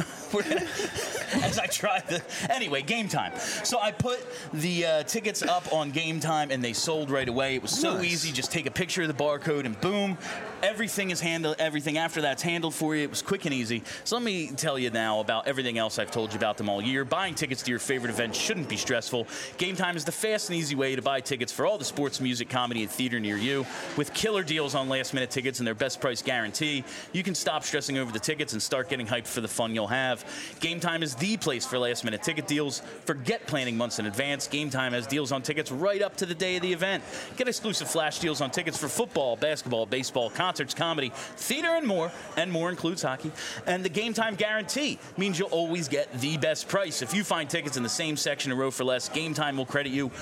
As I tried to. Anyway, Game Time. So I put the tickets up on Game Time, and they sold right away. It was so easy. Just take a picture of the barcode, and boom, everything is handled. Everything after that's handled for you. It was quick and easy. So let me tell you now about everything else I've told you about them all year. Buying tickets to your favorite event shouldn't be stressful. Game Time is the fast and easy way to buy tickets for all the sports, music, comedy, and theater near you. With killer deals on last-minute tickets and their best price guarantee, you can stop stressing over the tickets and start getting hyped for the fun you'll have. Game Time is the place for last-minute ticket deals. Forget planning months in advance. Game Time has deals on tickets right up to the day of the event. Get exclusive flash deals on tickets for football, basketball, baseball, concerts, comedy, theater, and more includes hockey. And the Game Time guarantee means you'll always get the best price. If you find tickets in the same section or row for less, Game Time will credit you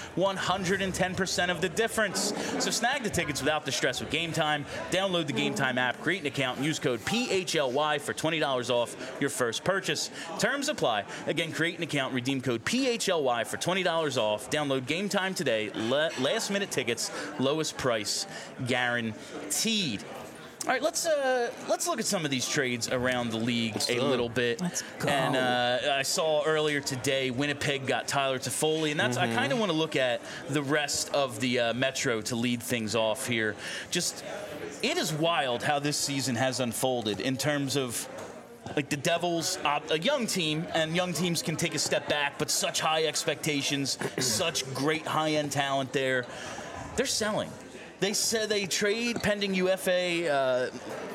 110% of the difference. So snag the tickets without the stress with Game Time. Download the Game Time app, create an account, and use code PHLY for $20 off your first purchase. Terms apply. Again, create an account, redeem code PHLY for $20 off. Download Game Time today. Last-minute tickets, lowest price guaranteed. All right, let's look at some of these trades around the league little bit. Let's go. And I saw earlier today Winnipeg got Tyler Toffoli, and I kind of want to look at the rest of the Metro to lead things off here. Just, it is wild how this season has unfolded in terms of, like, the Devils, a young team, and young teams can take a step back, but such high expectations, such great high-end talent there. They're selling. They said they trade pending UFA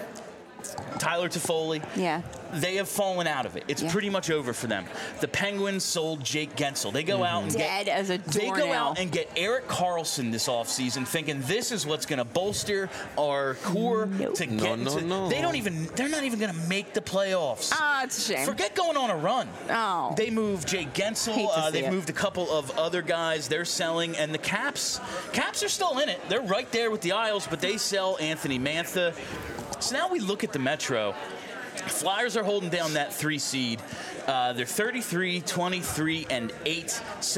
Tyler Toffoli. Yeah. They have fallen out of it. It's pretty much over for them. The Penguins sold Jake Gensel. They go out and dead as a doornail. They go out and get Erik Karlsson this offseason, thinking this is what's going to bolster our core to get into. No. They're not even going to make the playoffs. Ah, it's a shame. Forget going on a run. Oh. They moved Jake Gensel. They've moved a couple of other guys. They're selling, and the Caps are still in it. They're right there with the Isles, but they sell Anthony Mantha. So now we look at the Metro. Flyers are holding down that 3 seed. They're 33, 23, and 8,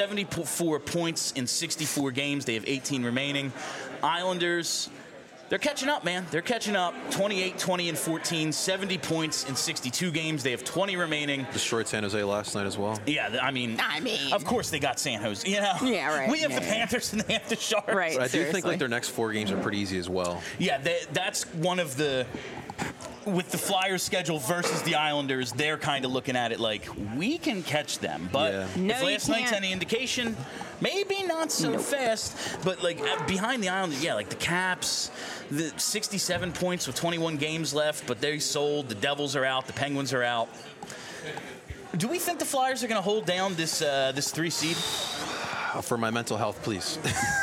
74 points in 64 games. They have 18 remaining. Islanders, they're catching up, man. They're catching up. 28, 20, and 14, 70 points in 62 games. They have 20 remaining. Destroyed San Jose last night as well. Yeah, I mean, of course they got San Jose. You know, yeah, right. We have the Panthers and they have the Sharks. Right. But I do think like their next 4 games are pretty easy as well. Yeah, that's one of the. With the Flyers schedule versus the Islanders, they're kind of looking at it like, we can catch them. But if last night's any indication, maybe not so fast. But, like, behind the Islanders, like the Caps, the 67 points with 21 games left, but they sold. The Devils are out. The Penguins are out. Do we think the Flyers are going to hold down this 3 seed? For my mental health, please.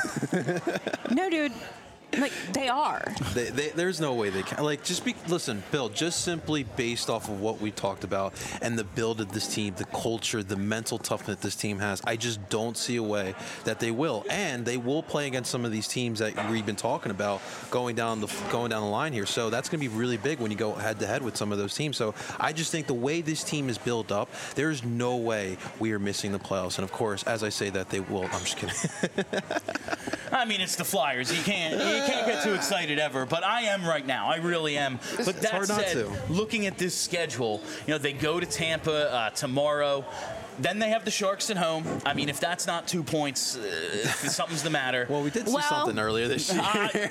No, dude. Like, they are. There's no way they can. Like, listen, Bill, just simply based off of what we talked about and the build of this team, the culture, the mental toughness this team has, I just don't see a way that they will. And they will play against some of these teams that we've been talking about going down the line here. So that's going to be really big when you go head-to-head with some of those teams. So I just think the way this team is built up, there's no way we are missing the playoffs. And, of course, as I say that, they will. I'm just kidding. I mean, it's the Flyers. You can't get too excited ever, but I am right now. I really am. But that said, looking at this schedule, they go to Tampa tomorrow. Then they have the Sharks at home. I mean, if that's not 2 points, something's the matter. Well, we did see something earlier this year.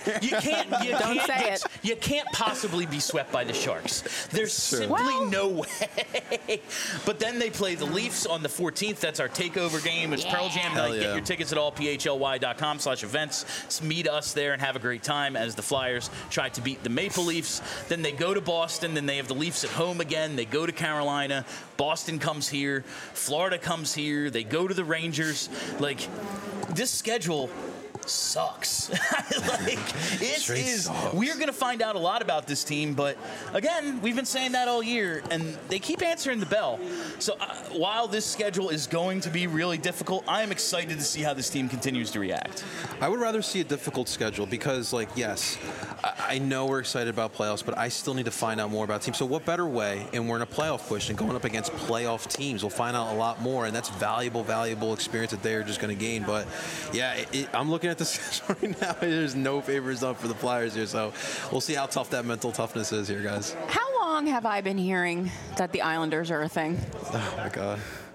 You can't possibly be swept by the Sharks. There's simply no way. But then they play the Leafs on the 14th. That's our takeover game. It's Pearl Jam night. Get your tickets at allphly.com/events. Meet us there and have a great time as the Flyers try to beat the Maple Leafs. Then they go to Boston. Then they have the Leafs at home again. They go to Carolina. Boston comes here. Florida comes here. They go to the Rangers. Like, this schedule, sucks. Like, Sucks. We're going to find out a lot about this team, but again, we've been saying that all year, and they keep answering the bell. So while this schedule is going to be really difficult, I am excited to see how this team continues to react. I would rather see a difficult schedule because, like, yes, I know we're excited about playoffs, but I still need to find out more about teams. So what better way, and we're in a playoff push, and going up against playoff teams, we'll find out a lot more, and that's valuable experience that they're just going to gain. But, yeah, I'm looking at the schedule right now. There's no favors up for the Flyers here, so we'll see how tough that mental toughness is here, guys. How long have I been hearing that the Islanders are a thing? Oh, my God.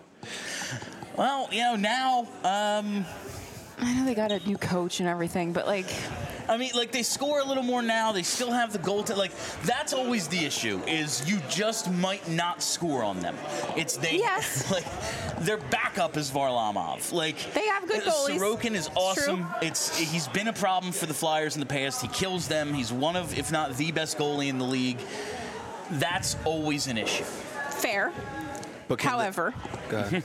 Well, now... I know they got a new coach and everything, but like... I mean, like, they score a little more now. They still have the goal to, like, that's always the issue, is you just might not score on them. It's they, yes. Like, their backup is Varlamov. Like, they have good goalies. Sorokin is awesome. He's been a problem for the Flyers in the past. He kills them. He's one of, if not the best goalie in the league. That's always an issue. Fair. But however... Go ahead.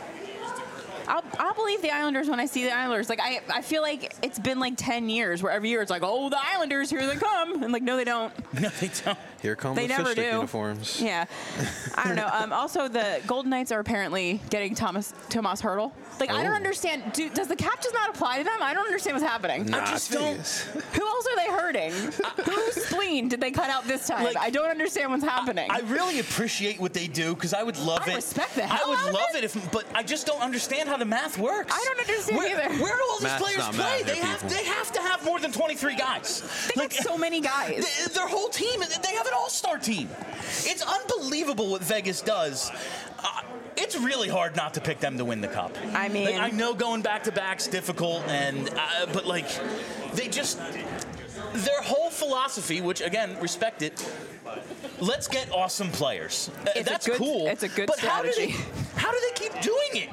I'll believe the Islanders when I see the Islanders. Like, I feel like it's been like 10 years where every year it's like, oh, the Islanders, here they come. And like, no, they don't. No, they don't. Here come the fish stick uniforms. Yeah. I don't know. Also, the Golden Knights are apparently getting Tomas Hertl. Like, I don't understand. Does the cap just not apply to them? I don't understand what's happening. Nah, I just don't. Who else are they hurting? Whose spleen did they cut out this time? Like, I don't understand what's happening. I really appreciate what they do because I would love it. I respect the hell I would out of love it. but I just don't understand how the math works. I don't understand either. Where do all these Math's players not play? math, They have to have more than 23 guys. They got so many guys. Their whole team, they have an all-star team. It's unbelievable what Vegas does. It's really hard not to pick them to win the cup. I mean, like, I know going back-to-back's difficult, but like, they just, their whole philosophy, which again, respect it. Let's get awesome players. That's cool. It's a good but strategy. How do they keep doing it?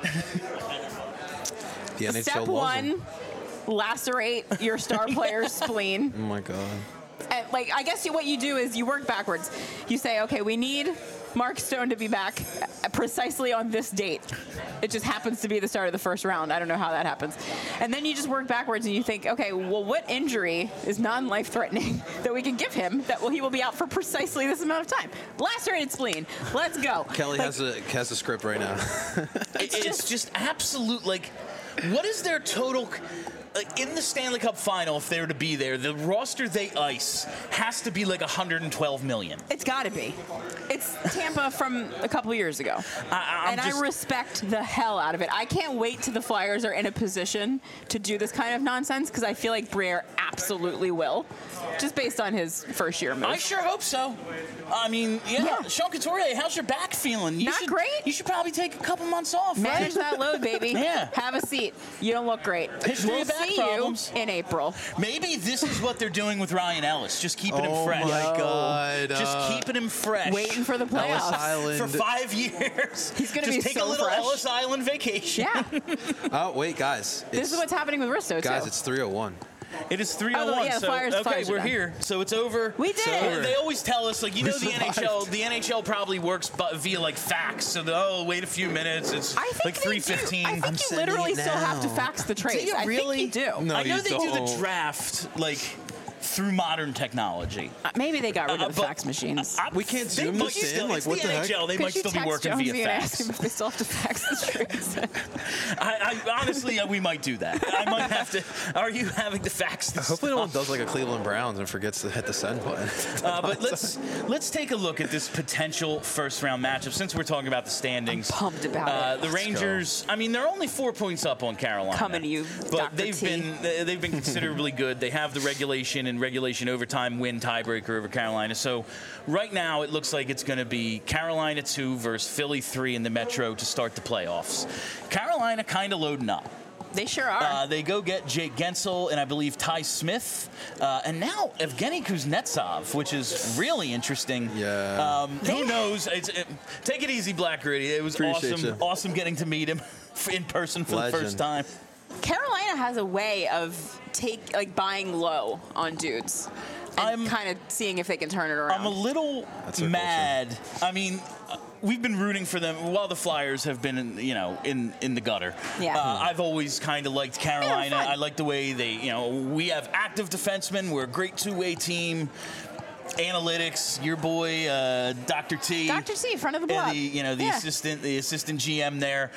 The NHL Step loves one, them. lacerate your star player's spleen. Oh my God. And, like, I guess what you do is you work backwards. You say, okay, we need Mark Stone to be back precisely on this date. It just happens to be the start of the first round. I don't know how that happens. And then you just work backwards and you think, okay, well, what injury is non-life-threatening that we can give him that he will be out for precisely this amount of time? Lacerated spleen. Let's go. Kelly has a script right now. It's just absolute, like, what is their total... in the Stanley Cup final, if they were to be there, the roster they ice has to be like $112 million. It's got to be. It's Tampa from a couple years ago. I respect the hell out of it. I can't wait till the Flyers are in a position to do this kind of nonsense because I feel like Briere absolutely will, just based on his first-year move. I sure hope so. I mean, yeah. Sean Couturier, how's your back feeling? Not great. You should probably take a couple months off. Manage that load, baby. Yeah. Have a seat. You don't look great. History of back See problems. you in April. Maybe this is what they're doing with Ryan Ellis, just keeping him fresh. Oh my God! Just keeping him fresh. Waiting for the playoffs. Ellis Island. For 5 years. He's going to be just take so a little fresh. Ellis Island vacation. Yeah. Oh wait, guys! This is what's happening with Risto, guys. too. It's 3:01. It is 3:01. Oh, yeah, so Flyers we're are here. So it's over. We did so it. They always tell us, like, you know, We the survived. NHL probably works via like fax. So wait a few minutes. It's I think like they do. 3:15. I think you literally still have to fax the trades. you really? I think you do. No, I know you they do the don't. draft like through modern technology. Maybe they got rid of the but fax machines. We can't They zoom might this in. still- Like it's what the the heck? NHL. They Could might you still be text working Jonesy via and fax. ask him if they still have to fax the trades? I honestly, we might do that. I might have to. Are you having to fax this? Hopefully, no one does like a Cleveland Browns and forgets to hit the send button. But let's take a look at this potential first-round matchup. Since we're talking about the standings, I'm pumped about it. The Let's Rangers. I mean, they're only 4 points up on Carolina. Coming to you, but Dr. they've T. been considerably good. They have the regulation and regulation overtime win tiebreaker over Carolina. So right now, it looks like it's going to be Carolina 2 versus Philly 3 in the Metro to start the playoffs. Carolina kind of loading up. They sure are. They go get Jake Gensel and I believe Ty Smith, and now Evgeny Kuznetsov, which is really interesting. Yeah. Who knows? Take it easy, Black Gritty. It was Appreciate awesome, you. awesome getting to meet him in person for the first time. Carolina has a way of buying low on dudes and kind of seeing if they can turn it around. I'm a little That's a mad. I mean, we've been rooting for them while the Flyers have been, in the gutter. Yeah. I've always kind of liked Carolina. Yeah, I like the way they, we have active defensemen. We're a great two-way team. Analytics, your boy Dr. T. Dr. T, front of the block. The assistant GM there.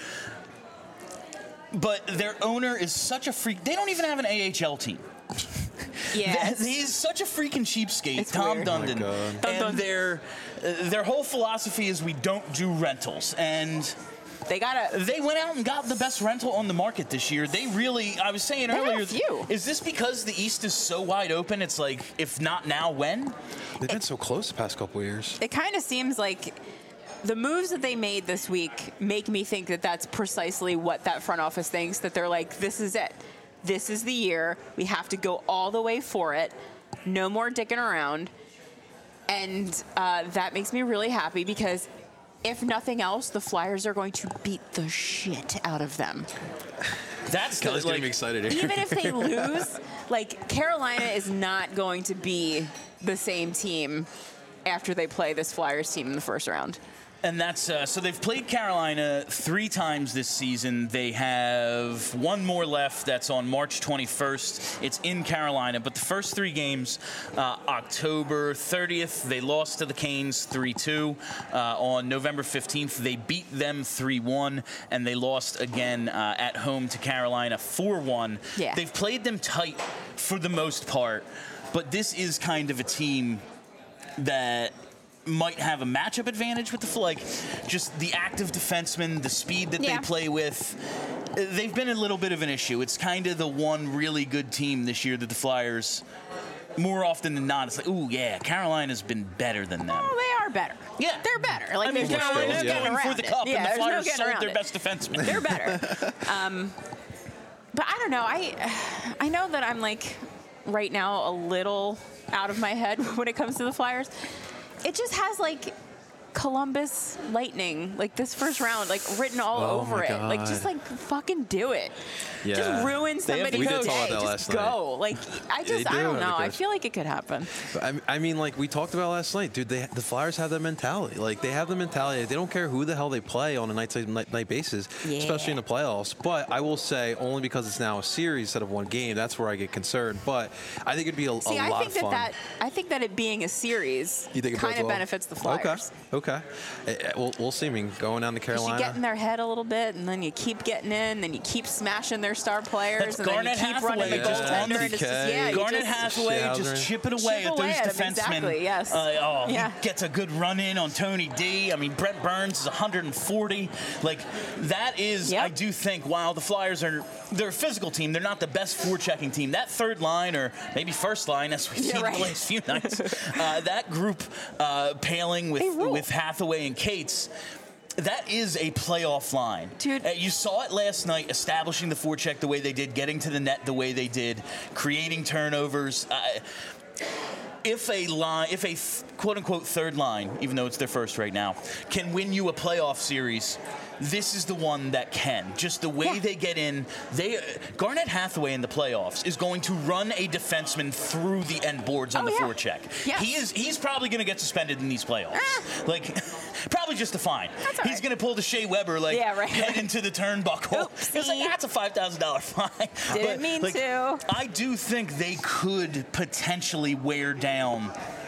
But their owner is such a freak. They don't even have an AHL team. Yeah, he's such a freaking cheapskate, it's Tom weird. Dundon. Oh And their whole philosophy is we don't do rentals. And they went out and got the best rental on the market this year. They really, I was saying earlier, is this because the East is so wide open? It's like, if not now, when? They've been so close the past couple of years. It kind of seems like the moves that they made this week make me think that that's precisely what that front office thinks, that they're like, this is it. This is the year. We have to go all the way for it. No more dicking around. And that makes me really happy because if nothing else, the Flyers are going to beat the shit out of them. That's Kelly's getting me excited here. Even if they lose, Carolina is not going to be the same team after they play this Flyers team in the first round. And that's so they've played Carolina 3 times this season. They have one more left. That's on March 21st. It's in Carolina. But the first 3 games, October 30th, they lost to the Canes 3-2. On November 15th, they beat them 3-1. And they lost again at home to Carolina 4-1. Yeah. They've played them tight for the most part. But this is kind of a team that might have a matchup advantage with just the active defensemen, the speed that they play with. They've been a little bit of an issue. It's kind of the one really good team this year that the Flyers, more often than not, it's like, ooh, yeah, Carolina's been better than them. Oh, they are better. Yeah. They're better. Carolina's going for the cup, and the Flyers sold their it. best defenseman. They're better. But I don't know. I know that I'm right now a little out of my head when it comes to the Flyers. It just has Columbus Lightning, this first round, written all over it. God. Just fucking do it. Yeah. Just ruin somebody's day. Just go. I don't know. I feel like it could happen. I mean, we talked about last night, dude. The Flyers have that mentality. They have the mentality. They don't care who the hell they play on a night basis, especially in the playoffs. But I will say, only because it's now a series instead of one game, that's where I get concerned. But I think it'd be a lot of fun. I think that it being a series kind of benefits the Flyers. Okay. We'll see. I mean, going down to Carolina. You get in their head a little bit, and then you keep getting in, then you keep smashing their star players, and then you keep running the goaltender. And it's just, Garnet Hathaway just chipping away at those defensemen. Exactly, yes. He gets a good run in on Tony D. I mean, Brent Burns is 140. That is, I do think, while the Flyers they're a physical team, they're not the best forechecking team. That third line, or maybe first line, as we've seen the last few nights, that group paling with Hathaway and Cates, that is a playoff line. Dude. You saw it last night, establishing the forecheck the way they did, getting to the net the way they did, creating turnovers. If a quote-unquote third line, even though it's their first right now, can win you a playoff series, this is the one that can. Just the way they get in. Garnet Hathaway in the playoffs is going to run a defenseman through the end boards on the forecheck. Yes. He's probably going to get suspended in these playoffs. Probably just a fine. He's going to pull the Shea Weber, head into the turnbuckle. It's that's a $5,000 fine. Didn't mean to. I do think they could potentially wear down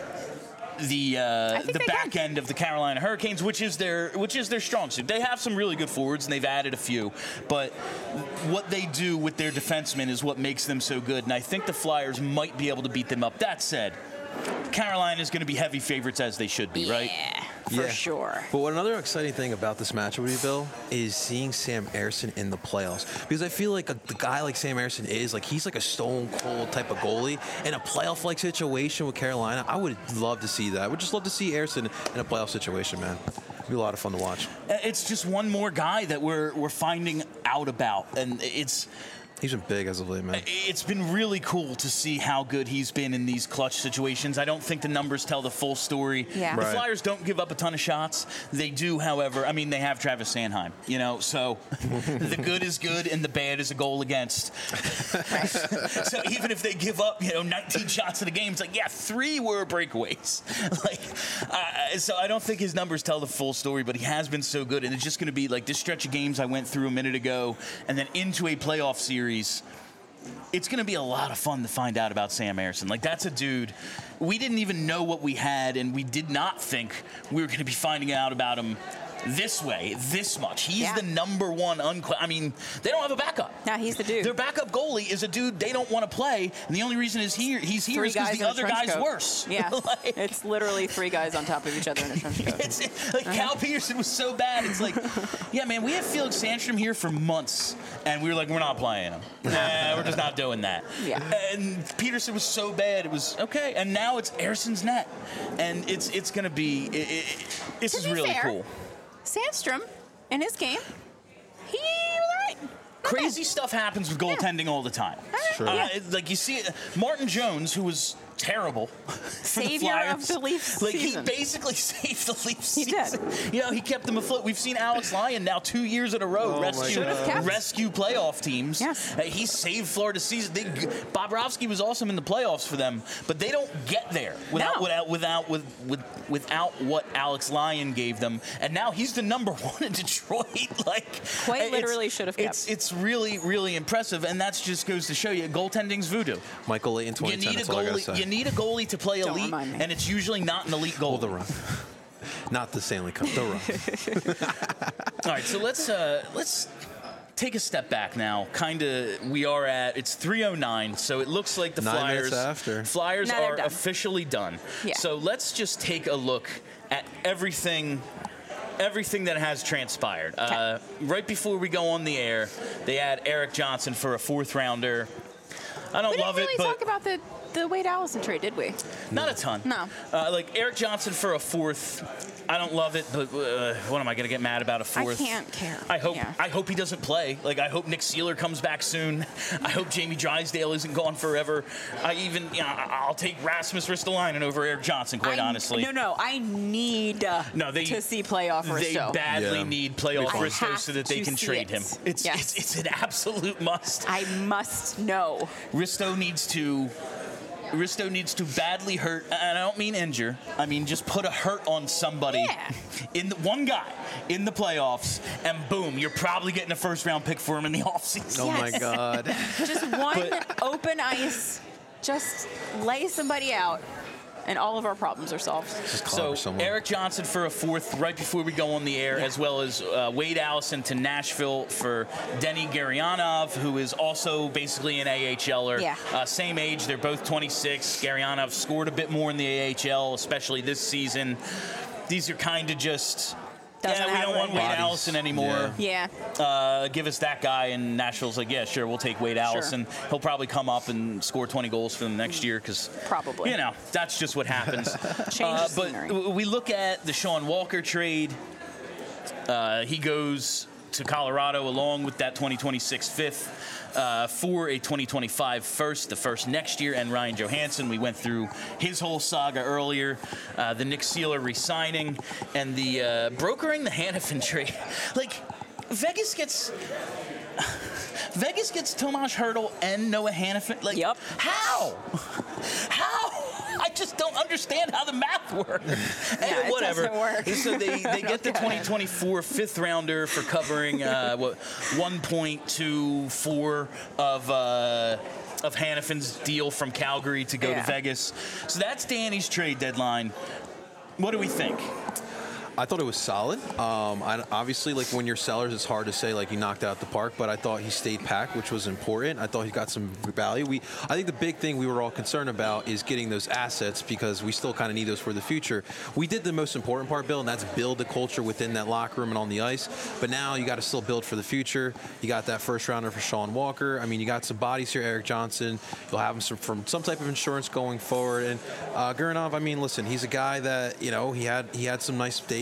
the back end of the Carolina Hurricanes, which is their strong suit. They have some really good forwards, and they've added a few. But what they do with their defensemen is what makes them so good. And I think the Flyers might be able to beat them up. That said, Carolina is going to be heavy favorites, as they should be, right? For sure. But another exciting thing about this matchup with you, Bill, is seeing Sam Ersson in the playoffs. Because I feel like the guy like Sam Ersson is, he's a stone-cold type of goalie. In a playoff-like situation with Carolina, I would love to see that. I would just love to see Ersson in a playoff situation, man. It'd be a lot of fun to watch. It's just one more guy that we're finding out about. And He's been big as of late, man. It's been really cool to see how good he's been in these clutch situations. I don't think the numbers tell the full story. Yeah. The Right. Flyers don't give up a ton of shots. They do, however, I mean, they have Travis Sanheim, you know, so the good is good and the bad is a goal against. So even if they give up, 19 shots in a game, it's like, yeah, 3 were breakaways. So I don't think his numbers tell the full story, but he has been so good. And it's just going to be like this stretch of games I went through a minute ago and then into a playoff series. It's going to be a lot of fun to find out about Sam Ersson. Like, that's a dude. We didn't even know what we had, and we did not think we were going to be finding out about him this way, this much. He's the number one. I mean, they don't have a backup. No, he's the dude. Their backup goalie is a dude they don't want to play, and the only reason he's here is because the other guy's worse. Yeah, it's literally 3 guys on top of each other in a trench coat. It's like Cal Peterson was so bad. It's like, yeah, man, we had Felix Sandstrom here for months, and we were like, we're not playing him. We're just not doing that. Yeah. And Peterson was so bad, it was okay. And now it's Ersson's net, and it's going to be. This is really cool. Sandstrom, in his game, he was all right. Crazy stuff happens with goaltending all the time. Sure. Like you see, Martin Jones, who was terrible, savior of the Leafs like season. he basically saved the Leafs. He season. did. He kept them afloat. We've seen Alex Lyon now 2 years in a row rescue playoff teams. Yes. He saved Florida's season. Bobrovsky was awesome in the playoffs for them, but they don't get there without what Alex Lyon gave them. And now he's the number 1 in Detroit. Quite literally should have kept. It's really, really impressive, and that just goes to show you goaltending's voodoo. Michael Layton, 2010. That's all I gotta say. You need a goalie to play elite, remind me. and it's usually not an elite goalie. The run. Not the Stanley Cup, the run. All right, so let's take a step back now. It's 3:09, so it looks like the 9 minutes after. Flyers Now they're are done. officially done. Yeah. So let's just take a look at everything that has transpired. Right before we go on the air, they had Erik Johnson for a 4th rounder. I don't love it, We didn't but really talk about the Wade Allison trade, did we? not a ton. No. Like Erik Johnson for a 4th. I don't love it, but what am I going to get mad about a 4th? I can't care. I hope he doesn't play. Like, I hope Nick Seeler comes back soon. I hope Jamie Drysdale isn't gone forever. I'll take Rasmus Ristolainen over Erik Johnson, quite honestly. No, I need to see playoff Risto. They badly need playoff I Risto have so that they to can see trade it. him. It's an absolute must. I must know. Risto needs to badly hurt, and I don't mean injure. I mean just put a hurt on somebody, one guy in the playoffs, and boom, you're probably getting a 1st-round pick for him in the offseason. Oh my God. Just one open ice. Just lay somebody out, and all of our problems are solved. So Erik Johnson for a 4th right before we go on the air, as well as Wade Allison to Nashville for Denny Gurianov, who is also basically an AHLer. Same age, they're both 26. Gurianov scored a bit more in the AHL, especially this season. These are kind of just... we don't want Wade Allison anymore. Give us that guy, and Nashville's like, yeah, sure, we'll take Wade Allison. He'll probably come up and score 20 goals for them next year because, that's just what happens. But we look at the Sean Walker trade. He goes to Colorado along with that 2026 5th for a 2025 first, the first next year, and Ryan Johansson. We went through his whole saga earlier. The Nick Seeler re-signing and the brokering the Hanifin trade. Like, Vegas gets Tomas Hertl and Noah Hanifin. Like, how? I just don't understand how the math works. Whatever. It doesn't work. So they get the 2024 5th rounder for covering 1.24 of Hanifin's deal from Calgary to go to Vegas. So that's Danny's trade deadline. What do we think? I thought it was solid. Obviously, like when you're sellers, it's hard to say like he knocked out the park, but I thought he stayed packed, which was important. I thought he got some value. I think the big thing we were all concerned about is getting those assets because we still kind of need those for the future. We did the most important part, Bill, and that's build the culture within that locker room and on the ice. But now you got to still build for the future. You got that 1st rounder for Sean Walker. I mean, you got some bodies here, Erik Johnson. You'll have him from some type of insurance going forward. And Gurianov, I mean, listen, he's a guy that he had some nice days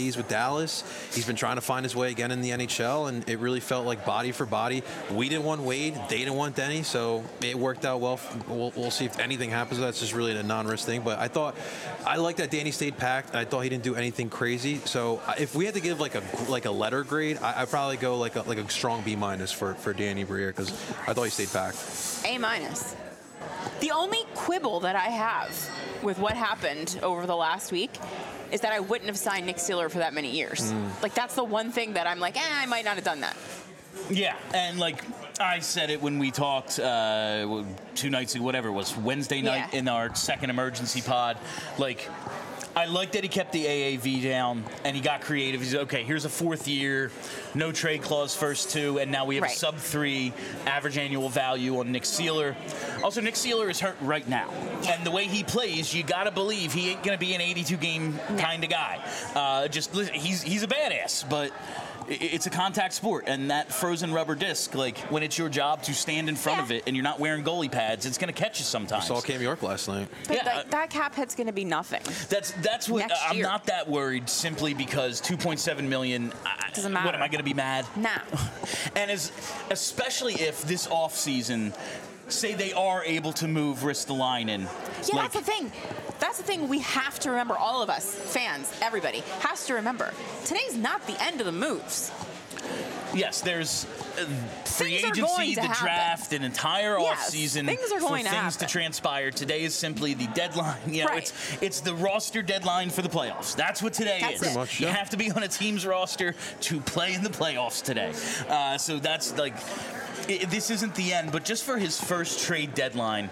stays with Dallas. He's been trying to find his way again in the NHL, and it really felt like body for body. We didn't want Wade, they didn't want Denny, so it worked out well. We'll see if anything happens. That's just really a non-risk thing. But I like that Danny stayed packed, and I thought he didn't do anything crazy. So if we had to give like a letter grade, I'd probably go like a strong B- for Danny Briere, because I thought he stayed packed. A-. The only quibble that I have with what happened over the last week is that I wouldn't have signed Nick Seeler for that many years. Like, that's the one thing that I'm like, I might not have done that. Yeah, and like I said it when we talked 2 nights ago, whatever it was, Wednesday night in our second emergency pod. Like, I like that he kept the AAV down and he got creative. He's okay, here's a 4th year, no trade clause first 2, and now we have a sub-3 average annual value on Nick Seeler. Also, Nick Seeler is hurt right now. And the way he plays, you got to believe he ain't going to be an 82-game kind of guy. He's a badass, but it's a contact sport, and that frozen rubber disc, like, when it's your job to stand in front of it and you're not wearing goalie pads, it's going to catch you sometimes. We saw Cam York last night. But that cap hit's going to be nothing. That's what I'm not that worried, simply because $2.7 million. Doesn't matter. What, am I going to be mad? No. And especially if this offseason, say they are able to move Ristolainen. Yeah, that's the thing. That's the thing we have to remember, all of us, fans, everybody, has to remember. Today's not the end of the moves. Yes, there's free agency, the draft, an entire offseason for things to transpire. Today is simply the deadline. You know, it's the roster deadline for the playoffs. That's what today is. Pretty much, you have to be on a team's roster to play in the playoffs today. So that's like, this isn't the end, but just for his first trade deadline,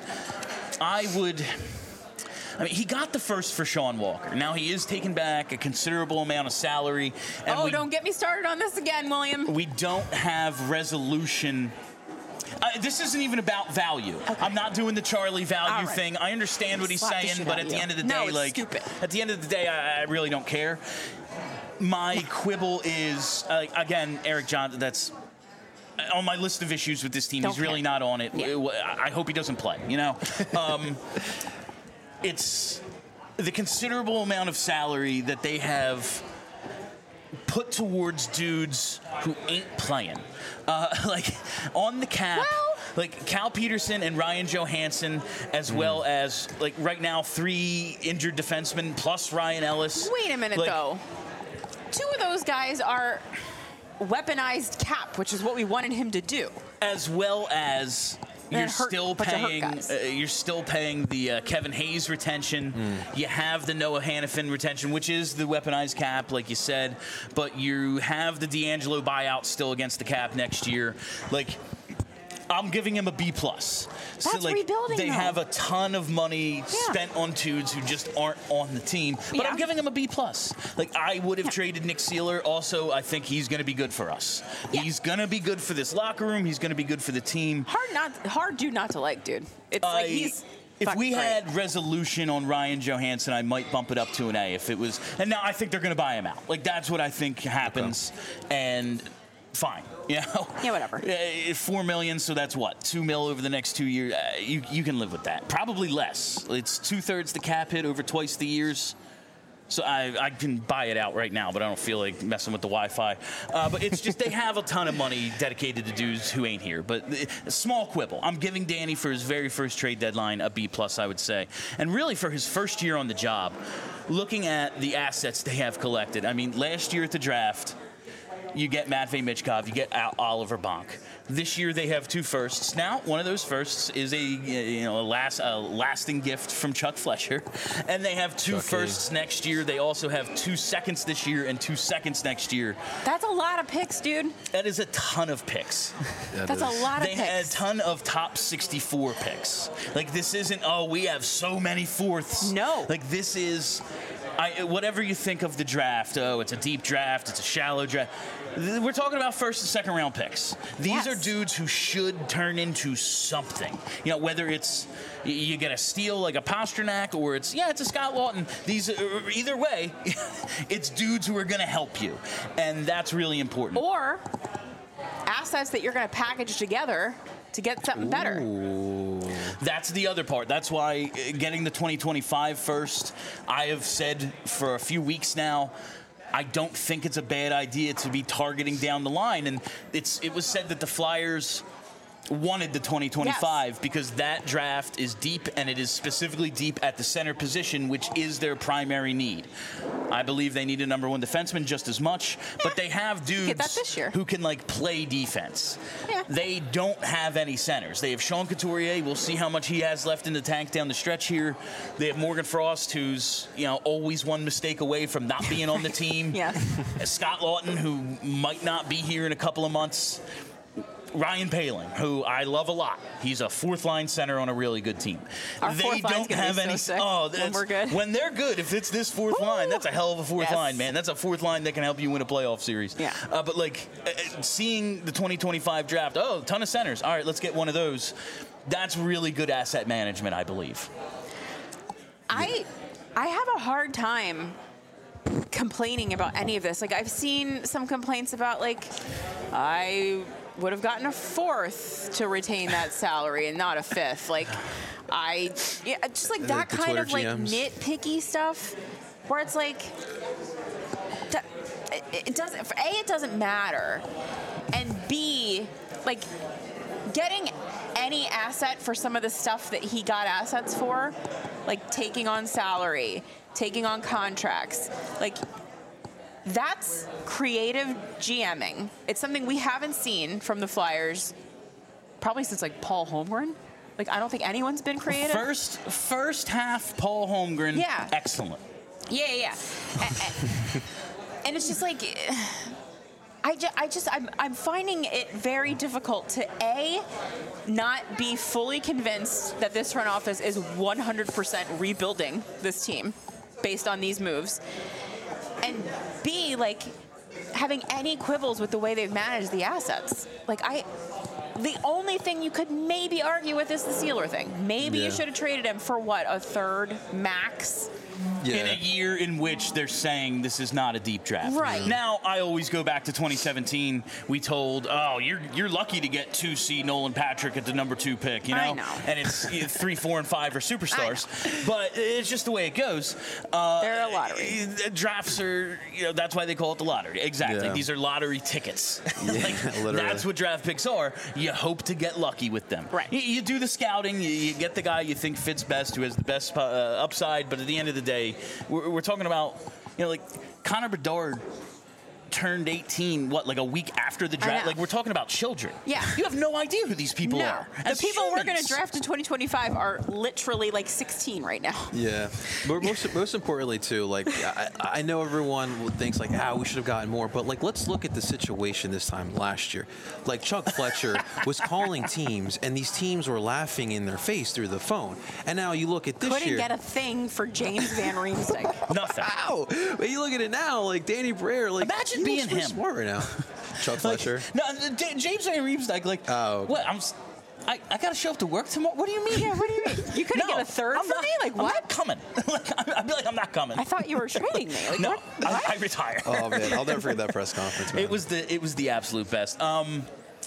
I mean, he got the first for Sean Walker. Now, he is taking back a considerable amount of salary. And don't get me started on this again, William. We don't have resolution. This isn't even about value. Okay. I'm not doing the Charlie value thing. I understand what he's saying, but at the end of the day, at the end of the day, I really don't care. My quibble is, again, Eric Johnson, that's on my list of issues with this team. He's really not on it. Yeah. I hope he doesn't play, you know? It's the considerable amount of salary that they have put towards dudes who ain't playing. Like, on the cap, like Cal Peterson and Ryan Johansson, as well as, like, right now, 3 injured defensemen plus Ryan Ellis. Wait a minute, though. 2 of those guys are weaponized cap, which is what we wanted him to do. As well as... You're still paying the Kevin Hayes retention. You have the Noah Hannafin retention, which is the weaponized cap, like you said. But you have the D'Angelo buyout still against the cap next year. Like, I'm giving him a B+. That's rebuilding. They have a ton of money spent on dudes who just aren't on the team. But I'm giving him a B+. Like, I would have traded Nick Seeler. Also, I think he's going to be good for us. Yeah. He's going to be good for this locker room. He's going to be good for the team. Hard dude not to like, dude. It's like he's... If we had resolution on Ryan Johansson, I might bump it up to an A. If it was, and now I think they're going to buy him out. Like, that's what I think happens. Okay. And fine, you know. Yeah, whatever. $4 million, so that's what, $2 million over the next 2 years. You can live with that. Probably less. It's 2/3 the cap hit over twice the years. So I can buy it out right now, but I don't feel like messing with the Wi-Fi. But it's just they have a ton of money dedicated to dudes who ain't here. But a small quibble. I'm giving Danny for his very first trade deadline a B+, I would say. And really for his first year on the job, looking at the assets they have collected. I mean, last year at the draft, you get Matvei Michkov, you get Oliver Bonk. This year they have 2 firsts. Now, one of those firsts is a lasting gift from Chuck Fletcher, and they have 2 firsts next year. They also have 2 seconds this year and 2 seconds next year. That's a lot of picks, dude. That is a ton of picks. That's a lot of picks. They had a ton of top 64 picks. Like, this isn't, we have so many fourths. No. Like, this is, whatever you think of the draft, it's a deep draft, it's a shallow draft. We're talking about first and second round picks. These are dudes who should turn into something. You know, whether it's you get a steal like a Pastrnak or it's a Scott Lawton. Either way, it's dudes who are going to help you, and that's really important. Or assets that you're going to package together to get something better. That's the other part. That's why getting the 2025 first, I have said for a few weeks now, I don't think it's a bad idea to be targeting down the line. And it was said that the Flyers wanted the 2025 because that draft is deep, and it is specifically deep at the center position, which is their primary need. I believe they need a number 1 defenseman just as much, but they have dudes who can like play defense. Yeah. They don't have any centers. They have Sean Couturier. We'll see how much he has left in the tank down the stretch here. They have Morgan Frost, who's always one mistake away from not being on the team. Scott Laughton, who might not be here in a couple of months. Ryan Poehling, who I love a lot. He's a 4th-line center on a really good team. They don't have any. When we're good. When they're good, if it's this 4th line, that's a hell of a 4th line, man. That's a 4th line that can help you win a playoff series. Yeah. But seeing the 2025 draft, a ton of centers. All right, let's get one of those. That's really good asset management, I believe. I have a hard time complaining about any of this. Like, I've seen some complaints about I would have gotten a 4th to retain that salary and not a 5th. Just that kind of nitpicky stuff where it's it doesn't matter, and B, getting any asset for some of the stuff that he got assets for, like taking on salary, taking on contracts, that's creative GMing. It's something we haven't seen from the Flyers probably since Paul Holmgren. I don't think anyone's been creative. First half Paul Holmgren. Yeah. Excellent. Yeah. And it's just I'm finding it very difficult to not be fully convinced that this front office is 100% rebuilding this team based on these moves, and B, having any quibbles with the way they've managed the assets. The only thing you could maybe argue with is the Sealer thing. Maybe you should have traded him for a 1/3 max. In a year in which they're saying this is not a deep draft. Right. Now, I always go back to 2017. We told, you're lucky to get 2C Nolan Patrick at the number 2 pick, I know. And it's 3, 4, and 5 are superstars. But it's just the way it goes. They're a lottery. Drafts are, that's why they call it the lottery. Exactly. Yeah. These are lottery tickets. Literally. That's what draft picks are. You hope to get lucky with them. Right. You do the scouting. You get the guy you think fits best, who has the best upside. But at the end of the day, we're talking about, Connor Bedard turned 18, a week after the draft? We're talking about children. Yeah. You have no idea who these people are. The people we're going to draft in 2025 are literally 16 right now. Yeah. But most importantly, too, I know everyone thinks, we should have gotten more, but, let's look at the situation this time last year. Chuck Fletcher was calling teams, and these teams were laughing in their face through the phone. And now you look at this year. Couldn't get a thing for James Van Riemsdyk. Nothing. Wow. But you look at it now, Danny Briere, imagine being him. Smart right now. Chuck Fletcher. No, James Van Riemsdyk, what? I got to show up to work tomorrow? What do you mean? Yeah, what do you mean? You couldn't get a 3rd for me? What? I'm not coming. I'd be I'm not coming. I thought you were trading me. No, what? I retire. Oh, man. I'll never forget that press conference, man. It was the absolute best. I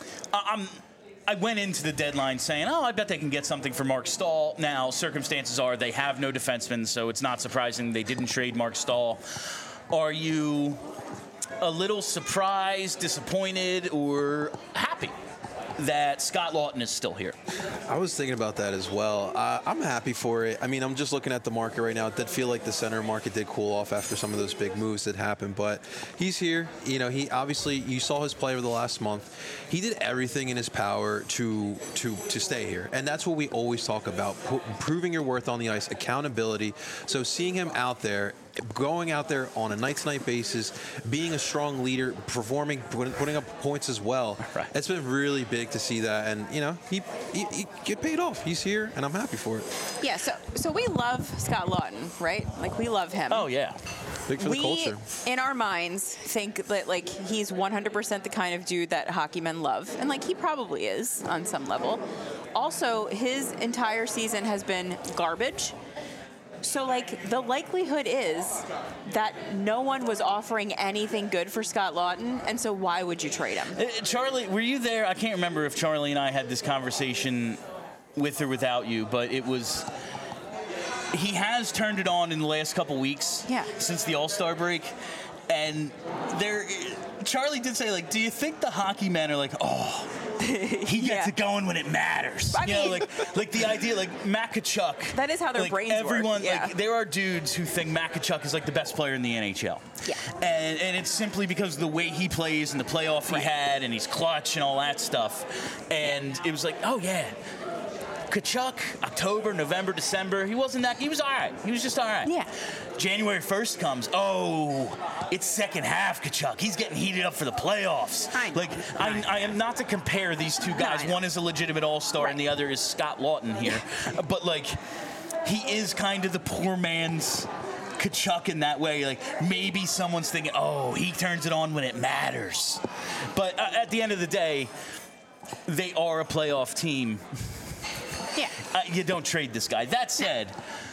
went into the deadline saying, I bet they can get something for Mark Stahl. Now, circumstances are they have no defenseman, so it's not surprising they didn't trade Mark Stahl. Are you a little surprised, disappointed, or happy that Scott Laughton is still here? I was thinking about that as well. I'm happy for it. I mean, I'm just looking at the market right now. It did feel like the center market did cool off after some of those big moves that happened, but he's here. He obviously, you saw his play over the last month. He did everything in his power to stay here, and that's what we always talk about: proving your worth on the ice, accountability. So seeing him out there, going out there on a night-to-night basis, being a strong leader, performing, putting up points as well. Right. It's been really big to see that, and he get paid off. He's here, and I'm happy for it. Yeah. So we love Scott Laughton, right? We love him. Oh yeah. Big for the culture. In our minds, think that he's 100% the kind of dude that hockey men love, and he probably is on some level. Also, his entire season has been garbage. So, the likelihood is that no one was offering anything good for Scott Laughton, and so why would you trade him? Charlie, were you there? I can't remember if Charlie and I had this conversation with or without you, but it was... He has turned it on in the last couple weeks since the All-Star break. And Charlie did say, like, do you think the hockey men are like, oh, he gets it going when it matters? I mean, like the idea, like Matt Tkachuk. That is how their brains work. Like, there are dudes who think Matt Tkachuk is like the best player in the NHL. Yeah. And it's simply because of the way he plays and the playoff he had, and he's clutch and all that stuff. And it was like, oh yeah. Tkachuk, October, November, December, he was all right. He was just all right. Yeah. January 1st comes, it's second half Tkachuk. He's getting heated up for the playoffs. I am not to compare these two guys. One is a legitimate all-star and the other is Scott Laughton here. But, like, he is kind of the poor man's Tkachuk in that way. Like, maybe someone's thinking, he turns it on when it matters. But at the end of the day, they are a playoff team. Yeah. You don't trade this guy. That said,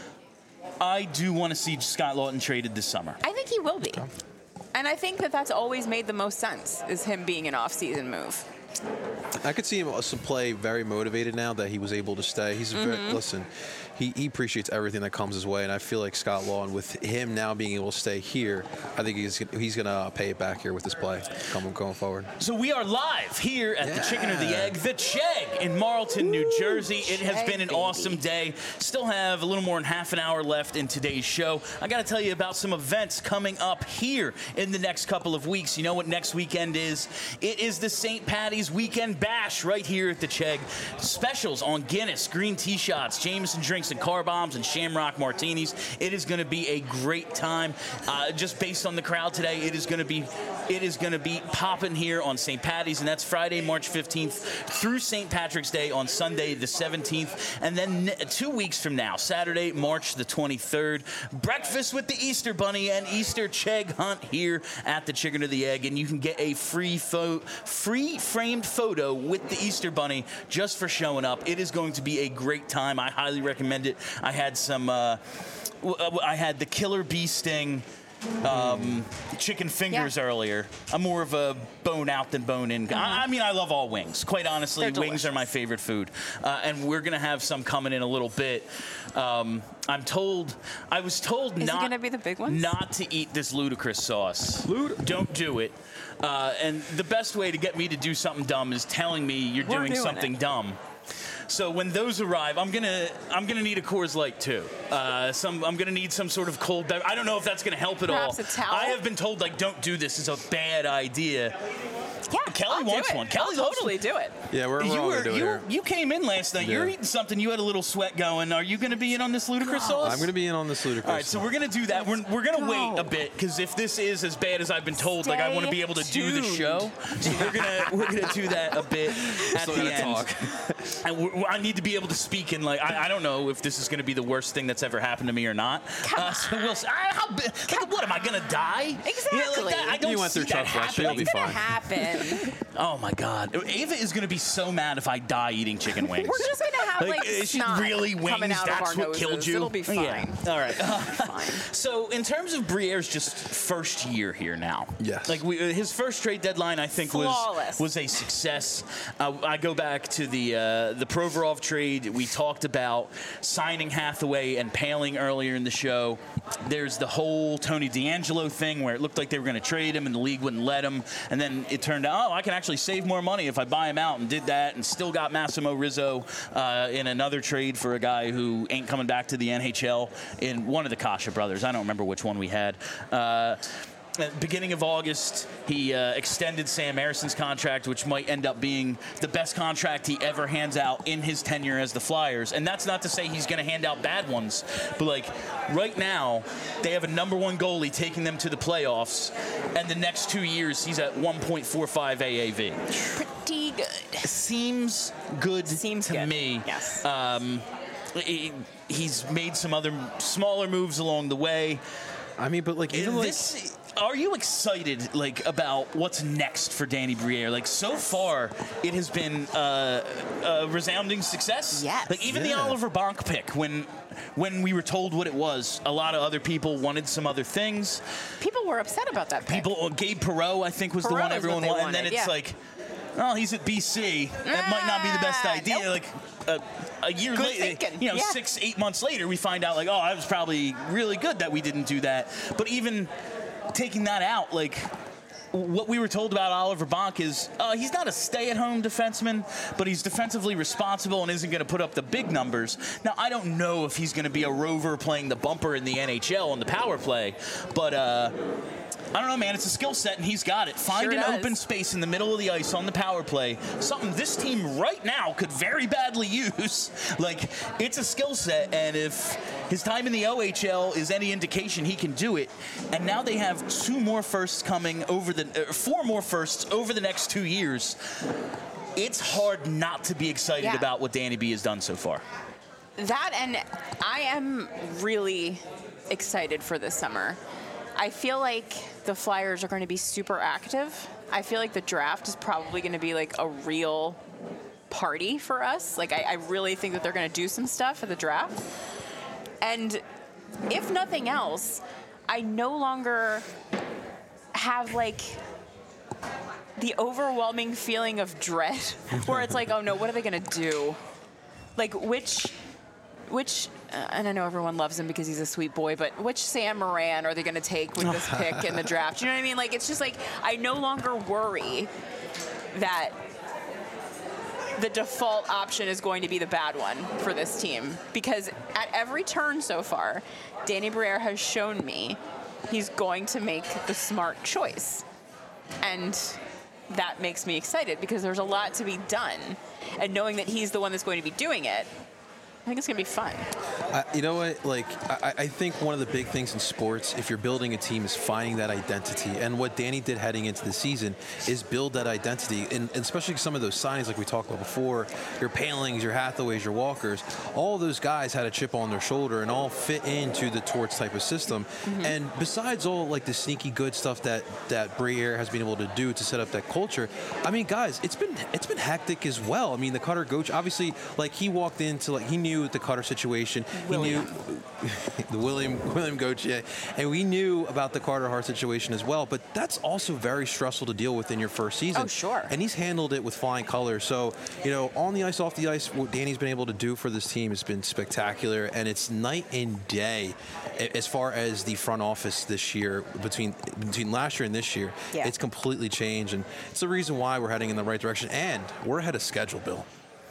I do want to see Scott Laughton traded this summer. I think he will be. And I think that's always made the most sense, is him being an off-season move. I could see him also play very motivated now that he was able to stay. He's listen, he appreciates everything that comes his way, and I feel like Scott Laughton, with him now being able to stay here, I think he's going to pay it back here with his play going forward. So we are live here at the Chicken or the Egg, the Chegg in Marlton, New Jersey. It has been an awesome day. Still have a little more than half an hour left in today's show. I got to tell you about some events coming up here in the next couple of weeks. You know what next weekend is? It is the St. Patty's Weekend Bash right here at the Chegg. Specials on Guinness, green tea shots, Jameson drinks and car bombs, and Shamrock martinis. It is going to be a great time. Just based on the crowd today, it is going to be popping here on St. Patty's, and that's Friday, March 15th through St. Patrick's Day on Sunday, the 17th, and then 2 weeks from now, Saturday, March the 23rd, breakfast with the Easter Bunny and Easter Chegg hunt here at the Chicken or the Egg, and you can get a free framed photo with the Easter Bunny just for showing up. It is going to be a great time. I highly recommend it. I had I had the Killer Bee Sting chicken fingers earlier. I'm more of a bone out than bone in. I mean, I love all wings. Quite honestly, wings are my favorite food. And we're going to have some coming in a little bit. I was told Is it going to be the big ones? Not to eat this ludicrous sauce. Don't do it. And the best way to get me to do something dumb is telling me you're doing something dumb. So when those arrive, I'm gonna need a Coors Light too. I'm gonna need some sort of cold beverage. I don't know if that's gonna help at all. Perhaps a towel? I have been told, like, don't do this. It's a bad idea. Yeah, Kelly wants one. Kelly I'll totally do it. Yeah, we're all gonna do it here. You came in last night. Yeah. You're eating something. You had a little sweat going. Are you going to be in on this ludicrous sauce? I'm going to be in on this ludicrous. All right, so we're going to do that. We're going to wait a bit, because if this is as bad as I've been told, like, I want to be able to do the show. So we're gonna do that a bit at the end. Talk. And I need to be able to speak in, like, I don't know if this is going to be the worst thing that's ever happened to me or not. So we'll see. What am I going to die? Exactly. You know, like that? I don't you went through see that tough You'll be fine. Happen. Oh my God, Ava is going to be so mad if I die eating chicken wings. We're just going to have like snot really wings, coming out that's of our what noses. killed you. It'll be fine. Yeah. All right. Fine. So in terms of Briere's just first year here now, yes, like his first trade deadline, I think was a success. I go back to the Provorov trade. We talked about signing Hathaway and Paling earlier in the show. There's the whole Tony DeAngelo thing where it looked like they were going to trade him and the league wouldn't let him, and then it turned out, I can actually save more money if I buy him out, and did that, and still got Massimo Rizzo in another trade for a guy who ain't coming back to the NHL in one of the Kasha brothers. I don't remember which one we had. At the beginning of August, he extended Sam Erson's contract, which might end up being the best contract he ever hands out in his tenure as the Flyers. And that's not to say he's going to hand out bad ones. But, like, right now, they have a #1 goalie taking them to the playoffs. And the next 2 years, he's at 1.45 AAV. Pretty good. Seems good to me. Yes. He's made some other smaller moves along the way. I mean, but, like, even this, are you excited, like, about what's next for Danny Briere? Like, so far, it has been a resounding success. Yes. Like, even the Oliver Bonk pick, when we were told what it was, a lot of other people wanted some other things. People were upset about that pick. Gabe Perreault, I think, was the one everyone wanted. And then it's like, oh, he's at BC. That might not be the best idea. Nope. Like, a year good later, thinking. 6-8 months later, we find out, like, oh, that was probably really good that we didn't do that. But even taking that out, like, what we were told about Oliver Bonk is he's not a stay-at-home defenseman, but he's defensively responsible and isn't going to put up the big numbers. Now, I don't know if he's going to be a rover playing the bumper in the NHL on the power play, but I don't know, man. It's a skill set, and he's got it. Find an open space in the middle of the ice on the power play, something this team right now could very badly use. Like, it's a skill set, and if his time in the OHL is any indication, he can do it. And now they have 4 more firsts over the next 2 years. It's hard not to be excited about what Danny B has done so far. That, and I am really excited for this summer. I feel like the Flyers are going to be super active. I feel like the draft is probably going to be like a real party for us. Like, I really think that they're going to do some stuff at the draft. And if nothing else, I no longer have like the overwhelming feeling of dread where it's like, oh no, what are they going to do? Like, which and I know everyone loves him because he's a sweet boy, but which Sam Moran are they going to take with this pick in the draft? You know what I mean? Like, it's just like, I no longer worry that the default option is going to be the bad one for this team, because at every turn so far, Danny Briere has shown me he's going to make the smart choice. And that makes me excited because there's a lot to be done. And knowing that he's the one that's going to be doing it, I think it's going to be fun. You know what? Like, I think one of the big things in sports, if you're building a team, is finding that identity. And what Danny did heading into the season is build that identity. And especially some of those signings like we talked about before, your Palings, your Hathaways, your Walkers, all those guys had a chip on their shoulder and all fit into the Torts type of system. Mm-hmm. And besides all like the sneaky good stuff that Briere has been able to do to set up that culture, I mean, guys, it's been hectic as well. I mean, the Cutter Goach, obviously, like, he walked into, like, he knew the Cutter situation. William. He knew the William Gauthier, and we knew about the Carter Hart situation as well. But that's also very stressful to deal with in your first season. Oh, sure. And he's handled it with flying colors. So, you know, on the ice, off the ice, what Danny's been able to do for this team has been spectacular, and it's night and day as far as the front office this year between last year and this year. Yeah. It's completely changed, and it's the reason why we're heading in the right direction, and we're ahead of schedule, Bill.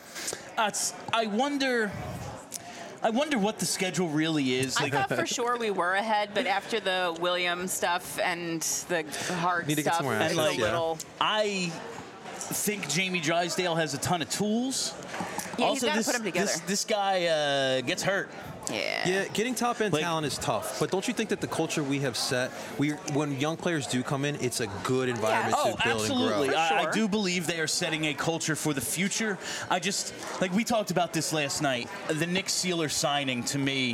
I wonder what the schedule really is. I thought for sure we were ahead, but after the William stuff and the Hart stuff, it's a little. I think Jamie Drysdale has a ton of tools. Yeah, also, he's got to put them together. This guy gets hurt. Yeah, getting top-end talent is tough, but don't you think that the culture we have set, when young players do come in, it's a good environment to build absolutely. and grow? I do believe they are setting a culture for the future. I just, like we talked about this last night, the Nick Seeler signing to me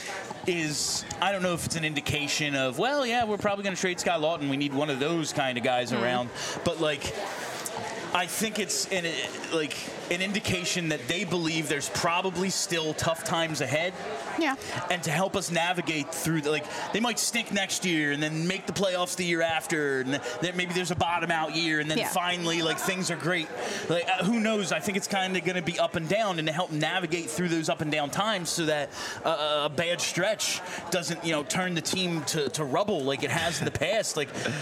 is, I don't know if it's an indication of, well, yeah, we're probably going to trade Scott Lawton. We need one of those kind of guys around. But, like, I think it's an indication that they believe there's probably still tough times ahead. Yeah. And to help us navigate through, they might stink next year and then make the playoffs the year after, and then maybe there's a bottom out year, and then finally, things are great. Who knows? I think it's kind of going to be up and down, and to help navigate through those up and down times so that a bad stretch doesn't, turn the team to rubble like it has in the past.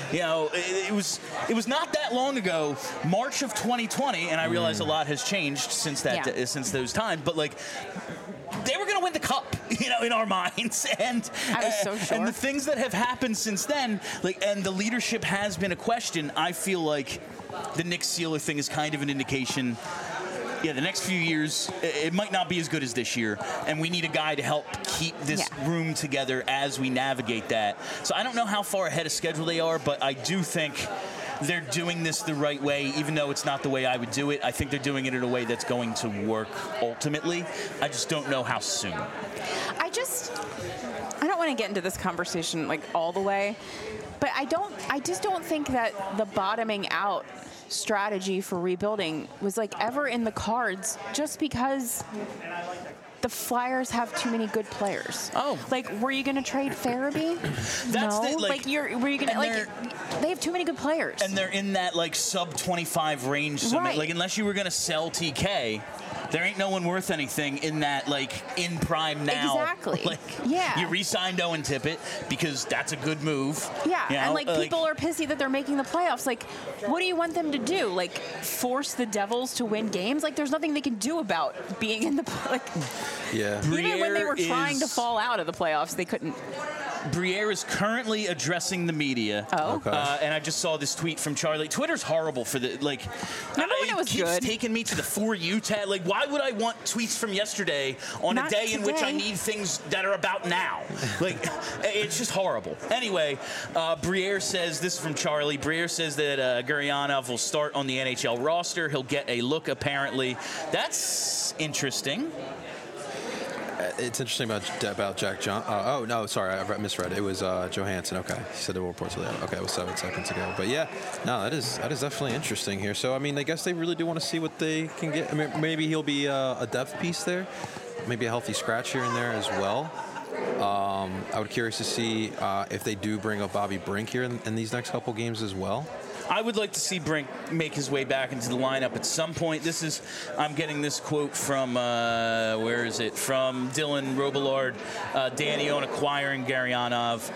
It was not that long ago, March of 2020, and I realize a lot has changed since since those times, but they were going to win the cup, in our minds, and I was so sure. And the things that have happened since then, and the leadership has been a question. I feel like the Nick Seeler thing is kind of an indication. Yeah, the next few years, it might not be as good as this year, and we need a guy to help keep this room together as we navigate that. So I don't know how far ahead of schedule they are, but I do think they're doing this the right way, even though it's not the way I would do it. I think they're doing it in a way that's going to work ultimately. I just don't know how soon. I don't want to get into this conversation all the way, but I just don't think that the bottoming out strategy for rebuilding was ever in the cards, just because the Flyers have too many good players. Oh. Were you going to trade Farabee? No. Were you going to, they have too many good players. And they're in that, sub-25 range. So, right. unless you were going to sell TK, there ain't no one worth anything in that, like, in prime now. Exactly. Like, yeah. You re-signed Owen Tippett because that's a good move. Yeah, you know? and, like, people are pissy that they're making the playoffs. Like, what do you want them to do? Like, force the Devils to win games? Like, there's nothing they can do about being in the, like... Yeah. Even when they were trying to fall out of the playoffs, they couldn't... Briere is currently addressing the media. Oh. Okay. And I just saw this tweet from Charlie. Twitter's horrible for the, like... Remember when it was keeps good? taking me to the For You tab. Like, why would I want tweets from yesterday on Not a day in which I today. need things that are about now? Like, it's just horrible. Anyway, Briere says, this is from Charlie, Briere says that Gurianov will start on the NHL roster. He'll get a look, apparently. That's interesting. It's interesting about Jack John. Oh no, sorry, I misread. It was Johansson. Okay, he said the report to that. Okay, it was 7 seconds ago. But yeah, no, that is definitely interesting here. So I mean, I guess they really do want to see what they can get. I mean, maybe he'll be a depth piece there, maybe a healthy scratch here and there as well. I would curious to see if they do bring up Bobby Brink here in these next couple games as well. I would like to see Brink make his way back into the lineup at some point. I'm getting this quote from, where is it? From Dylan Robillard, Danny on acquiring Gurianov.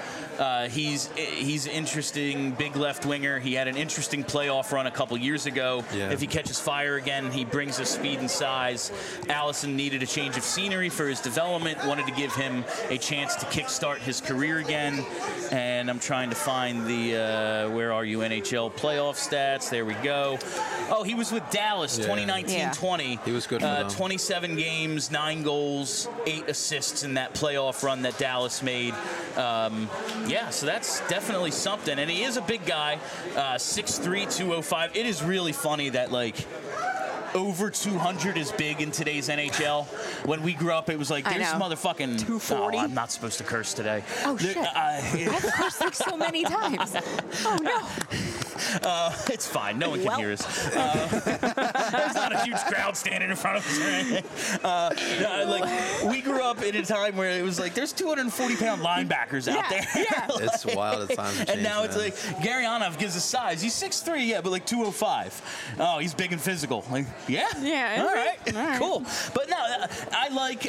He's interesting, big left winger. He had an interesting playoff run a couple years ago. Yeah. If he catches fire again, he brings us speed and size. Allison needed a change of scenery for his development, wanted to give him a chance to kickstart his career again. And I'm trying to find the, where are you, NHL playoff stats. There we go. Oh, he was with Dallas 2019-20. He was good for them. 27 games, 9 goals, 8 assists in that playoff run that Dallas made. Yeah, so that's definitely something. And he is a big guy, 6'3", 205. It is really funny that, like, over 200 is big in today's NHL. When we grew up, it was like, there's motherfucking... 240? Oh, I'm not supposed to curse today. Oh, shit. I've cursed like so many times. Oh, no. It's fine. No one can hear us. There's not a huge crowd standing in front of us or anything. Like, we grew up in a time where it was like, there's 240-pound linebackers out there. Yeah. It's wild at times. And now it's like, Gurianov gives a size. He's 6'3", yeah, but like 205. Oh, he's big and physical. Like, yeah. All right. Cool. But no, I like,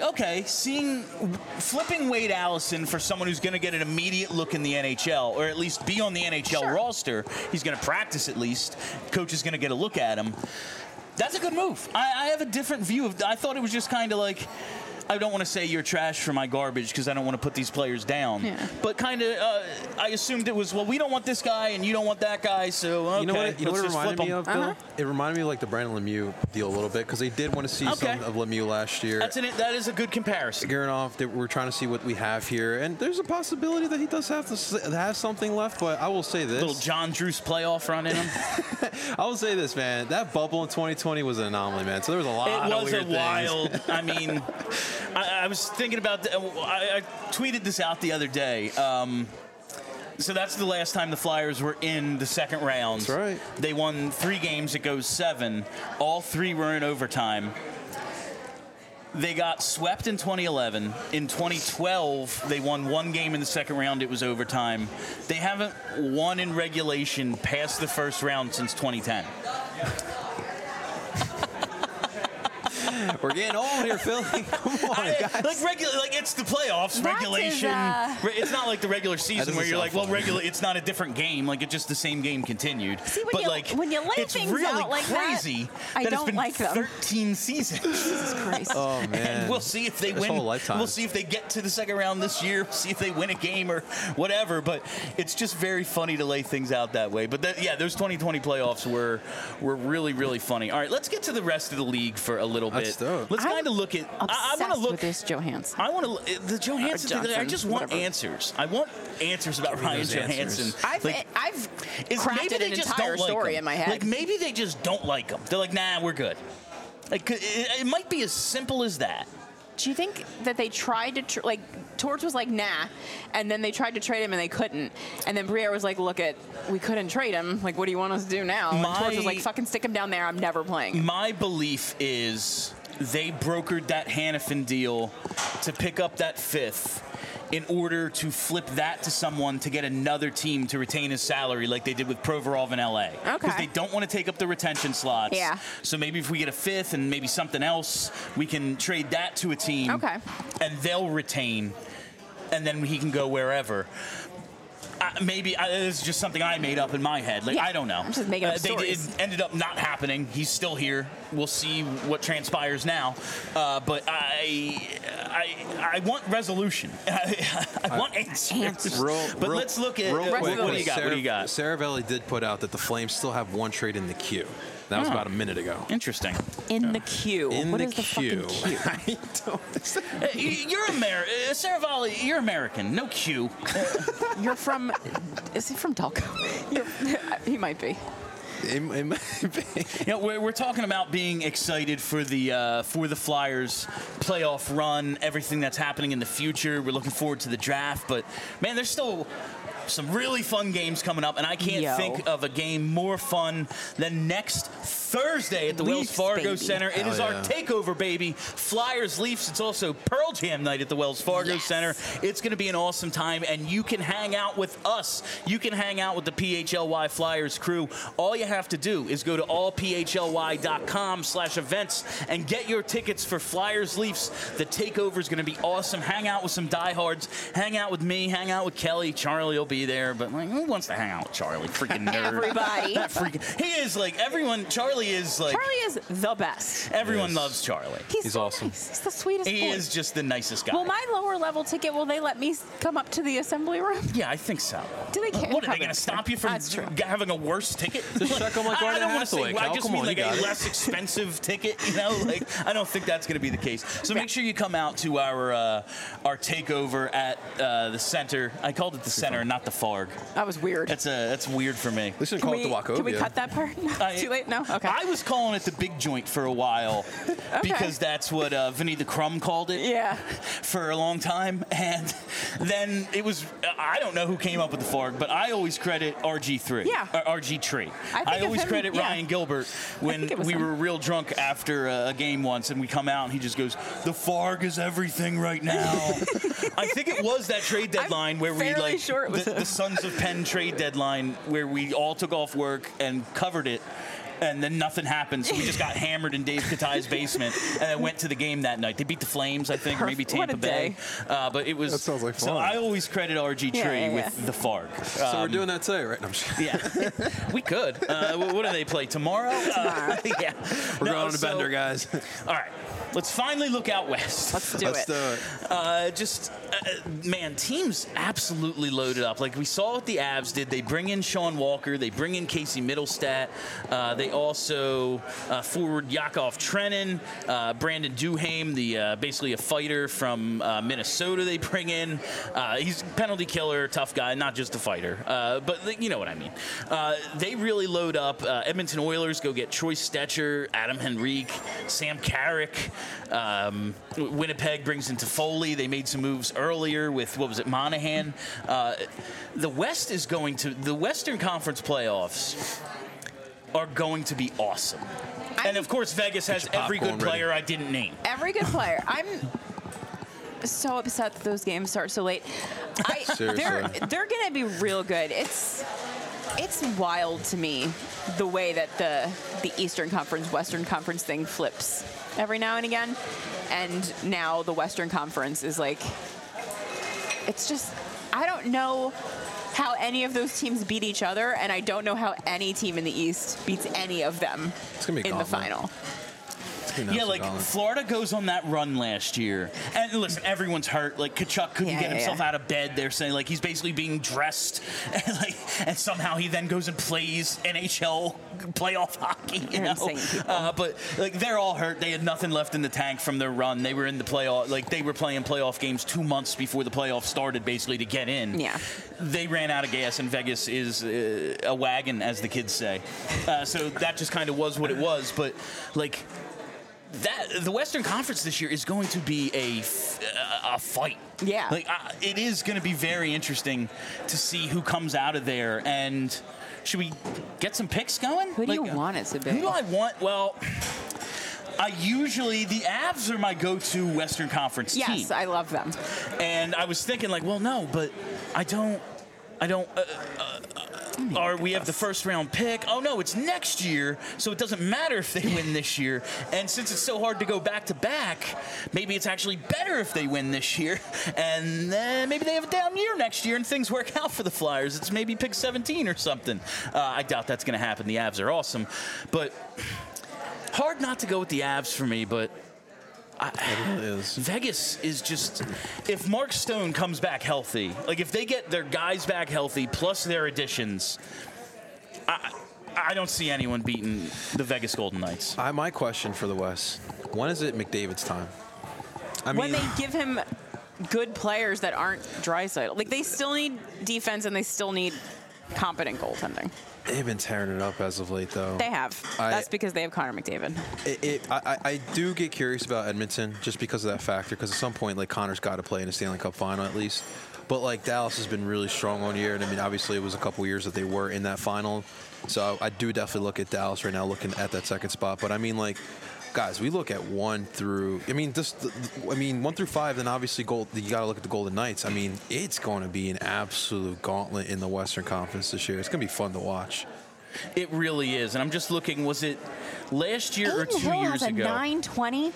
flipping Wade Allison for someone who's going to get an immediate look in the NHL, or at least be on the NHL roster. He's going to practice at least. Coach is going to get a look at him. That's a good move. I have a different view of. I thought it was just kind of like, I don't want to say you're trash for my garbage because I don't want to put these players down. Yeah. But kind of, I assumed it was, well, we don't want this guy and you don't want that guy, so okay. You know what it reminded me of, Bill? It reminded me of like the Brandon Lemieux deal a little bit because they did want to see some of Lemieux last year. That is a good comparison. Gurianov, we're trying to see what we have here, and there's a possibility that he does have something left, but I will say this. Little John Druce playoff run in him. I will say this, man. That bubble in 2020 was an anomaly, man. So there was a lot of weird things. It was wild. I mean... I was thinking about I tweeted this out the other day. So that's the last time the Flyers were in the second round. That's right. They won 3 games. It goes 7. All 3 were in overtime. They got swept in 2011. In 2012, they won 1 game in the second round. It was overtime. They haven't won in regulation past the first round since 2010. We're getting old here, Philly. Come on, guys. Like it's the playoffs, regulation. It's not like the regular season where you're like, well, it's not a different game. Like, it's just the same game continued. See, when you lay it's things really out like crazy that, it's been 13 seasons. Jesus Christ. Oh, man. And we'll see if they win. Whole lifetime. We'll see if they get to the second round this year. We'll see if they win a game or whatever. But it's just very funny to lay things out that way. But those 2020 playoffs were really, really funny. All right, let's get to the rest of the league for a little bit. Let's kind of look at. I want to look at this Johansson. I want to the Johansson thing. I just want answers. I want answers about Ryan Johansson. I've crafted an entire story in my head. Like, maybe they just don't like him. They're like, nah, we're good. Like, it might be as simple as that. Do you think that they tried to Torts was like, nah, and then they tried to trade him and they couldn't, and then Briere was like, look, we couldn't trade him. Like, what do you want us to do now? And Torts was like, fucking stick him down there. I'm never playing. My belief is they brokered that Hanifin deal to pick up that 5th in order to flip that to someone to get another team to retain his salary like they did with Provorov in LA. Okay. Because they don't want to take up the retention slots. Yeah. So maybe if we get a fifth and maybe something else, we can trade that to a team. Okay. And they'll retain, and then he can go wherever. Maybe it's just something I made up in my head. Like, Yeah. I don't know. I'm just making up stories. It ended up not happening. He's still here. We'll see what transpires now. But I want resolution. I want answers. But let's look at real quick. what do you got? What do you got? Saravelli did put out that the Flames still have one trade in the queue. That was about a minute ago. Interesting. In the queue. What is the queue. fucking queue? You're American. Saravalli, you're American. No Q. You're from... Is he from Delco? He might be. It might be. You know, we're talking about being excited for the Flyers playoff run, everything that's happening in the future. We're looking forward to the draft, but man, there's still some really fun games coming up, and I can't think of a game more fun than next Thursday at the Wells Fargo baby. Center. It is our takeover, baby. Flyers, Leafs. It's also Pearl Jam night at the Wells Fargo Center. It's going to be an awesome time, and you can hang out with us. You can hang out with the PHLY Flyers crew. All you have to do is go to allphly.com/events and get your tickets for Flyers, Leafs. The takeover is going to be awesome. Hang out with some diehards. Hang out with me. Hang out with Kelly. Charlie will be there, but like, who wants to hang out with Charlie? Freaking nerd. Everybody. That freaking. He is like everyone. Charlie is the best. Everyone loves Charlie. He's so awesome. Nice. He's the sweetest He boy. is just the nicest guy. Well, my lower level ticket, will they let me come up to the assembly room? Yeah, I think so. Do they care? What, are they going to stop you from That's true. having a worse ticket? Just check them like I Gordon don't want to Hathaway. say, I Cal, just come mean on, like you got a it. less expensive ticket, you know? Like, I don't think that's going to be the case. So make sure you come out to our takeover at the center. I called it the center, not the Farg. That was weird. That's weird for me. They should call it the Wachovia. Can we cut that part? Too late? No? Okay. I was calling it the big joint for a while because that's what Vinny the Crumb called it for a long time. And then it was, I don't know who came up with the Farg, but I always credit RG3. Yeah. Or RG3. I always him, credit Ryan Gilbert when we were real drunk after a game once and we come out and he just goes, the Farg is everything right now. I think it was that trade deadline where we like, sure the Sons of Penn trade deadline where we all took off work and covered it. And then nothing happened, so we just got hammered in Dave Katai's basement, and then went to the game that night. They beat the Flames, I think, or maybe Tampa Bay. But it was. That sounds like fun. So I always credit RG3 with the Farg. So we're doing that today, right? No, I'm just yeah, we could. What do they play tomorrow? Yeah, we're going on a bender, guys. All right. Let's finally look out west. Let's do it. Man, teams absolutely loaded up. Like we saw what the Avs did. They bring in Sean Walker. They bring in Casey Middlestat. They also forward Yakov Trenin, Brandon Duhaime, the basically a fighter from Minnesota. They bring in. He's a penalty killer, tough guy, not just a fighter. But you know what I mean. They really load up. Edmonton Oilers go get Troy Stetcher, Adam Henrique, Sam Carrick. Winnipeg brings in Toffoli. They made some moves earlier with, what was it, Monahan. The Western Conference playoffs are going to be awesome. And of course, Vegas has every good player I didn't name. Every good player. I'm so upset that those games start so late. They're going to be real good. It's wild to me the way that the Eastern Conference, Western Conference thing flips every now and again. And now the Western Conference is like, it's just, I don't know how any of those teams beat each other, and I don't know how any team in the East beats any of them in the final. Yeah, like Florida goes on that run last year. And listen, everyone's hurt. Like Tkachuk couldn't get himself out of bed. They're saying like he's basically being dressed, and somehow he then goes and plays NHL playoff hockey. You know, but like they're all hurt. They had nothing left in the tank from their run. They were in the playoff. Like they were playing playoff games 2 months before the playoffs started, basically to get in. Yeah, they ran out of gas, and Vegas is a wagon, as the kids say. So that just kind of was what it was. But like. The Western Conference this year is going to be a fight. Yeah. Like it is going to be very interesting to see who comes out of there. And should we get some picks going? Who do you want it to be? Who do I want? Well, the Avs are my go-to Western Conference team. Yes, I love them. And I was thinking like, well, no, but I don't. We have the first round pick. Oh no, it's next year, so it doesn't matter if they win this year. And since it's so hard to go back to back, maybe it's actually better if they win this year, and then maybe they have a down year next year and things work out for the Flyers. It's maybe pick 17 or something. I doubt that's going to happen. The Avs are awesome, but hard not to go with the Avs for me. But Vegas is just, if Mark Stone comes back healthy, like if they get their guys back healthy plus their additions, I don't see anyone beating the Vegas Golden Knights. My question for the West, when is it McDavid's time? When they give him good players that aren't Draisaitl. Like, they still need defense and they still need competent goaltending. They've been tearing it up as of late, though. They have. That's because they have Connor McDavid. I do get curious about Edmonton just because of that factor, because at some point, like, Connor's got to play in a Stanley Cup final at least. But, like, Dallas has been really strong all year, and, I mean, obviously it was a couple years that they were in that final. So I do definitely look at Dallas right now looking at that second spot. But, I mean, like, guys, we look at 1 through 5, then obviously you got to look at the Golden Knights. I mean, it's going to be an absolute gauntlet in the Western Conference this year. It's going to be fun to watch. It really is. And I'm just looking, was it last year or 2 Hill years has a ago? 920.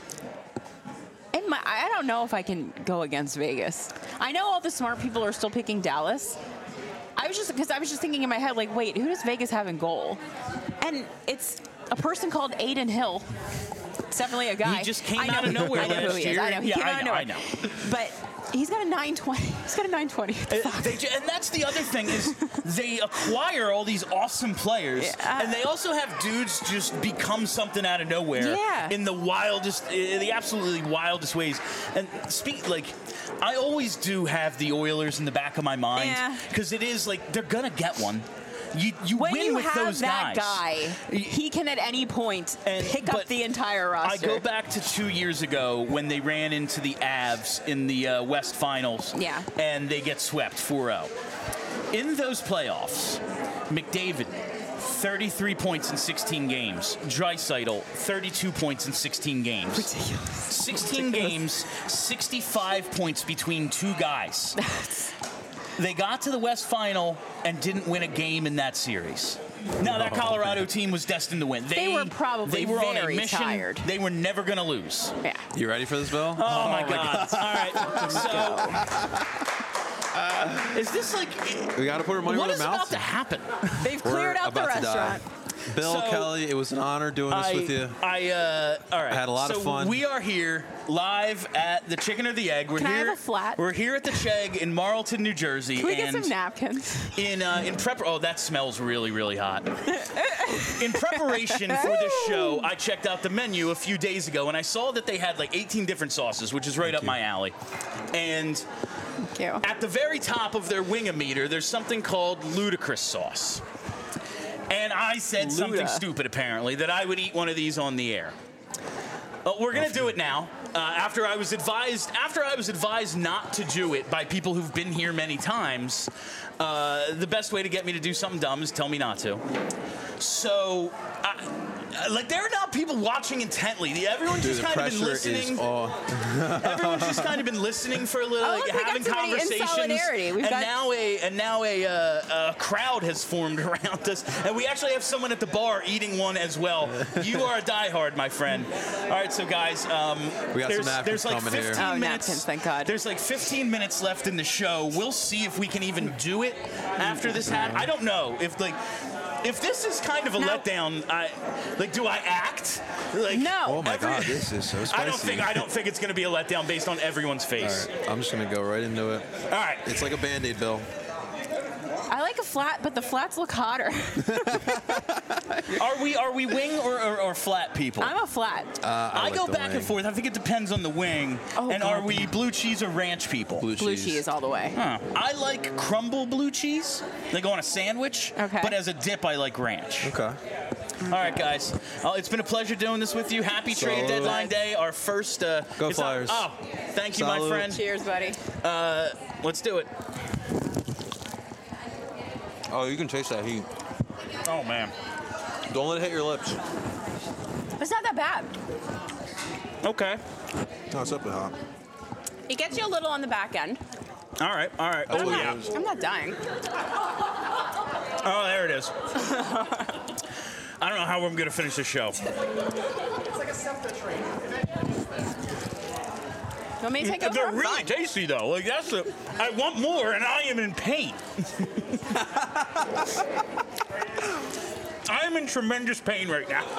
I don't know if I can go against Vegas. I know all the smart people are still picking Dallas. I was just thinking in my head, like, wait, who does Vegas have in goal? And it's a person called Aiden Hill. It's definitely a guy. He just came out of nowhere last year. I know. He came out of nowhere. I know. But he's got a 920. He's got a 920. And that's the other thing is they acquire all these awesome players, and they also have dudes just become something out of nowhere in the absolutely wildest ways. And I always do have the Oilers in the back of my mind because it is like they're gonna get one. You when win you with have those that guys. He can at any point pick up the entire roster. I go back to 2 years ago when they ran into the Avs in the West Finals, and they get swept 4-0. In those playoffs, McDavid, 33 points in 16 games. Draisaitl, 32 points in 16 games. Ridiculous. 16 games, 65 points between two guys. They got to the West Final and didn't win a game in that series. Now, that Colorado team was destined to win. They were probably on a very mission. tired. They were never going to lose. Yeah. You ready for this, Bill? Oh my God. All right. So, is this like... We got to put our money where our What is about mouth to happen? They've cleared out the restaurant. Bill, Kelly, it was an honor doing this with you. All right. I had a lot of fun. We are here live at the Chicken or the Egg. Can I have a flat? We're here at the Chegg in Marlton, New Jersey. Can we get some napkins? Oh, that smells really, really hot. In preparation for this show, I checked out the menu a few days ago, and I saw that they had like 18 different sauces, which is right up my alley. And at the very top of their wing-a-meter, there's something called ludicrous sauce. And I said something stupid, apparently, that I would eat one of these on the air. We're going to do it now. After I was advised not to do it by people who've been here many times, the best way to get me to do something dumb is tell me not to. So, there are now people watching intently. Everyone's just kind of been listening. Everyone's just kind of been listening for a little, having conversations. And now a crowd has formed around us, and we actually have someone at the bar eating one as well. You are a diehard, my friend. All right, so guys, we got some napkins there's like coming 15 here. minutes. Napkins, thank God. There's like 15 minutes left in the show. We'll see if we can even do it after this happens. I don't know if this is kind of a letdown. Do I act? No. Oh my God, this is so spicy. I don't think it's going to be a letdown based on everyone's face. All right, I'm just going to go right into it. All right. It's like a Band-Aid, Bill. I like a flat, but the flats look hotter. Are we wing or flat people? I'm a flat. I go back and forth. I think it depends on the wing. Are we blue cheese or ranch people? Blue cheese all the way. Huh. I like crumble blue cheese. They go on a sandwich. Okay. But as a dip, I like ranch. Okay. All right, guys. It's been a pleasure doing this with you. Happy trade deadline day. Our first. Go Flyers. Thank you, my friend. Cheers, buddy. Let's do it. Oh, you can taste that heat. Oh, man. Don't let it hit your lips. It's not that bad. Okay. No, it's up to hot. It gets you a little on the back end. All right. Oh, yeah. I'm not dying. Oh, there it is. I don't know how I'm going to finish this show. You want me to take over? They're I'm really fine. tasty, though. Like I want more, and I am in pain. I am in tremendous pain right now.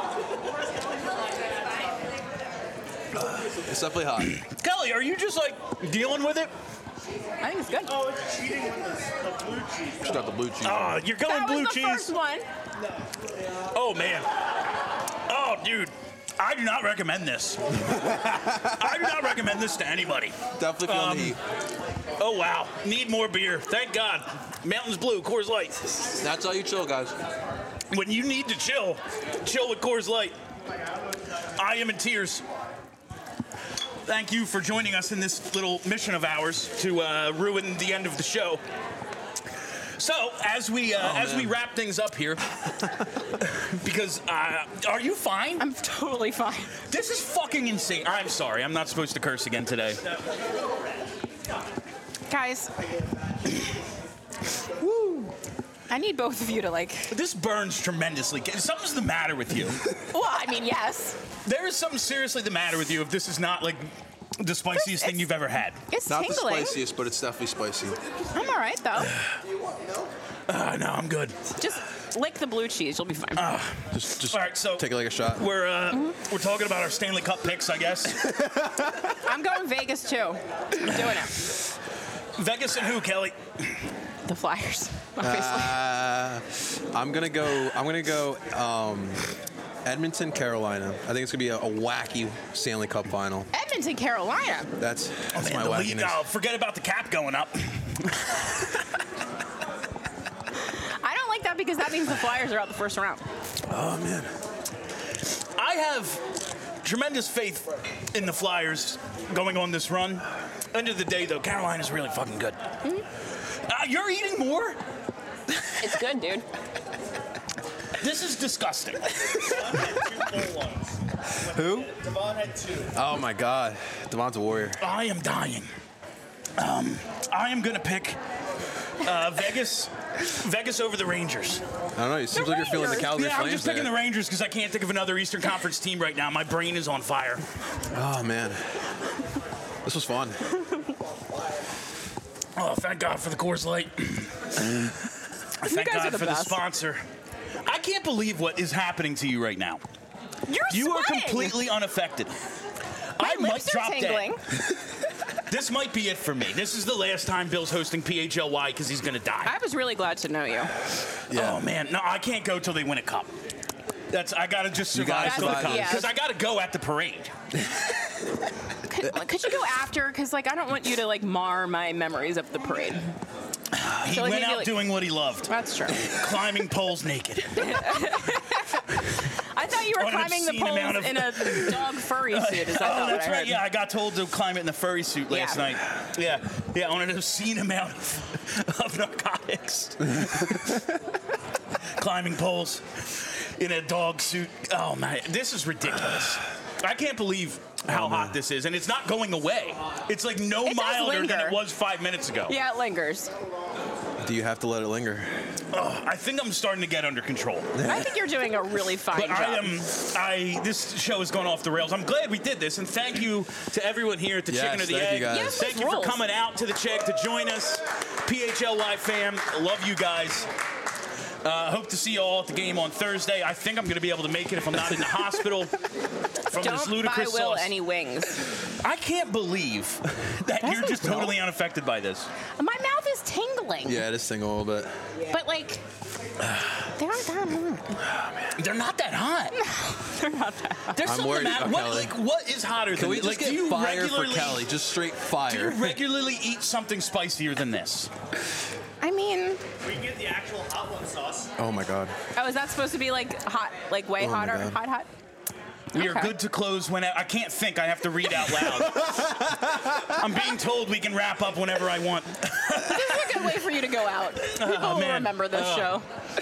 It's definitely hot. Kelly, are you just like dealing with it? I think it's good. Oh, it's cheating with the blue cheese. Just got the blue cheese. You're going That blue was the cheese. first one. Oh, man. Oh, dude. I do not recommend this. I do not recommend this to anybody. Definitely feeling the heat. Oh, wow. Need more beer. Thank God. Mountains Blue, Coors Light. That's how you chill, guys. When you need to chill with Coors Light. I am in tears. Thank you for joining us in this little mission of ours to ruin the end of the show. So, as we wrap things up here, because are you fine? I'm totally fine. This is fucking insane. I'm sorry. I'm not supposed to curse again today. Guys. Woo. I need both of you to This burns tremendously. Something's the matter with you. Well, I mean, yes. There is something seriously the matter with you if this is not the spiciest thing you've ever had. It's Not tingling. the spiciest, but it's definitely spicy. I'm all right, though. No, I'm good. Just lick the blue cheese. You'll be fine. Just All right, so take a shot. We're talking about our Stanley Cup picks, I guess. I'm going Vegas, too. I'm doing it. Vegas and who, Kelly? The Flyers, obviously. I'm gonna go Edmonton, Carolina. I think it's gonna be a wacky Stanley Cup final. Edmonton, Carolina. That's my the league, wackiness. forget about the cap going up. I don't like that because that means the Flyers are out the first round. Oh man. I have tremendous faith in the Flyers going on this run. End of the day, though, Carolina's really fucking good. You're eating more? It's good, dude. This is disgusting. Who? Devon had 2. Oh my God. Devon's a warrior. I am dying. I am going to pick Vegas over the Rangers. I don't know. It seems like you're feeling the Calgary Yeah, I'm Flames just picking there. the Rangers because I can't think of another Eastern Conference team right now. My brain is on fire. Oh man. This was fun. Oh, thank God for the Coors Light. Thank guys are God the for the best. sponsor. I can't believe what is happening to you right now. You are sweating. completely unaffected. My I might lips are drop tingling. dead. This might be it for me. This is the last time Bill's hosting PHLY because he's going to die. I was really glad to know you. Yeah. Oh, man. No, I can't go till they win a cup. I got to just You gotta survive till the survive cup. this. Because I got to go at the parade. Could you go after? Because I don't want you to mar my memories of the parade. He So, went maybe, out doing what he loved. That's true. Climbing poles naked. I thought you were On an climbing the obscene amount poles of- in a dog furry suit. Is that Oh, what that's I right. heard? Yeah, I got told to climb it in the furry suit last Yeah. night. Yeah, on an obscene amount of narcotics. Climbing poles in a dog suit. Oh, man, this is ridiculous. I can't believe how hot this is, and it's not going away. It's like no It does milder than linger. it was 5 minutes ago. Yeah, it lingers. Do you have to let it linger? I think I'm starting to get under control. I think you're doing a really fine But job. this show has gone off the rails. I'm glad we did this, and thank you to everyone here at the Yes, Chicken or the thank Egg. you guys. Yes, Thank this you for rules. coming out to the Chegg to join us. PHLY fam, love you guys. Hope to see you all at the game on Thursday. I think I'm going to be able to make it if I'm not in the hospital from this Don't buy ludicrous Will sauce. any wings. I can't believe that you're just Will. totally unaffected by this. My mouth is tingling. Yeah, it is sting a little bit. But they aren't that hot. They're not that hot. They're not that hot. There's I'm something worried about about Kelly. what is hotter Can than we just like, get do you fire for regularly- Kelly? Just straight Do you fire. regularly eat something spicier than this? I mean, We can get the actual hot one sauce. Oh my God. oh, is that supposed to be hot, way Oh my hotter? God. Hot? We are Okay. good to close when I can't think. I have to read out loud. I'm being told we can wrap up whenever I want. This is a good way for you to go out. People will man. remember this show.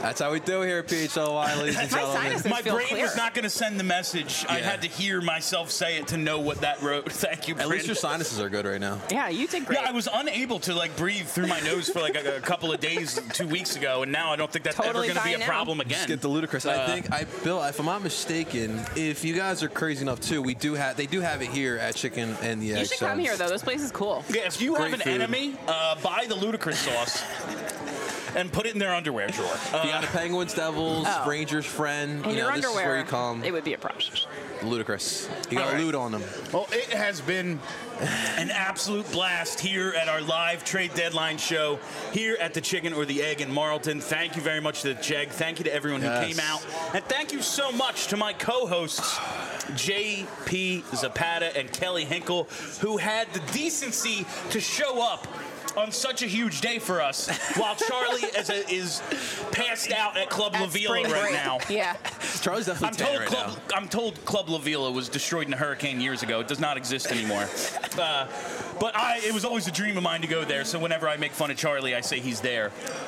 That's how we do here at PHLY, ladies and gentlemen. sinuses My feel brain clear. was not going to send the message. I Yeah. had to hear myself say it to know what that wrote. Thank you, At least your sinuses are good right now. Yeah, you did great. Yeah, I was unable to breathe through my nose for a couple of days 2 weeks ago, and now I don't think that's Totally ever going to be fine a now. problem again. Just get the ludicrous. I think, Bill, if I'm not mistaken, if you guys are crazy enough too, they do have it here at Chicken and the Egg. you should come here though. This place is cool. Yeah, if you have Great an food. enemy, buy the ludicrous sauce and put it in their underwear drawer. If you got a Penguins, Devils, Oh. Rangers friend, In your this is underwear, where you come. it would be a process. Ludicrous. You got All a right. loot on them. Well, it has been an absolute blast here at our live trade deadline show here at the Chicken or the Egg in Marlton. Thank you very much to the Jeg. Thank you to everyone who Yes. came out. And thank you so much to my co-hosts, J.P. Zapata and Kelly Hinkle, who had the decency to show up on such a huge day for us, while Charlie is passed out at Club La At Vila spring right break. now. Yeah. Charlie's definitely tan right now. I'm told Club La Vila was destroyed in a hurricane years ago. It does not exist anymore. But it was always a dream of mine to go there. So whenever I make fun of Charlie, I say he's there.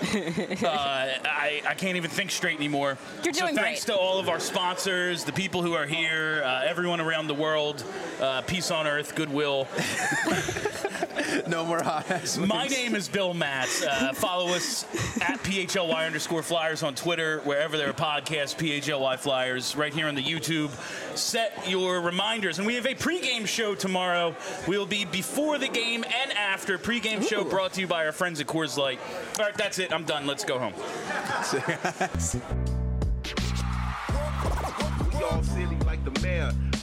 I can't even think straight anymore. You're doing so thanks great. to all of our sponsors, the people who are here, everyone around the world. Peace on earth, goodwill. No more hot ass. My name is Bill Matz. Follow us at PHLY_Flyers on Twitter, wherever there are podcasts, PHLY Flyers, right here on the YouTube. Set your reminders. And we have a pregame show tomorrow. We'll be before the game and after. Pregame show brought to you by our friends at Coors Light. All right, that's it. I'm done. Let's go home. We all silly like the mayor.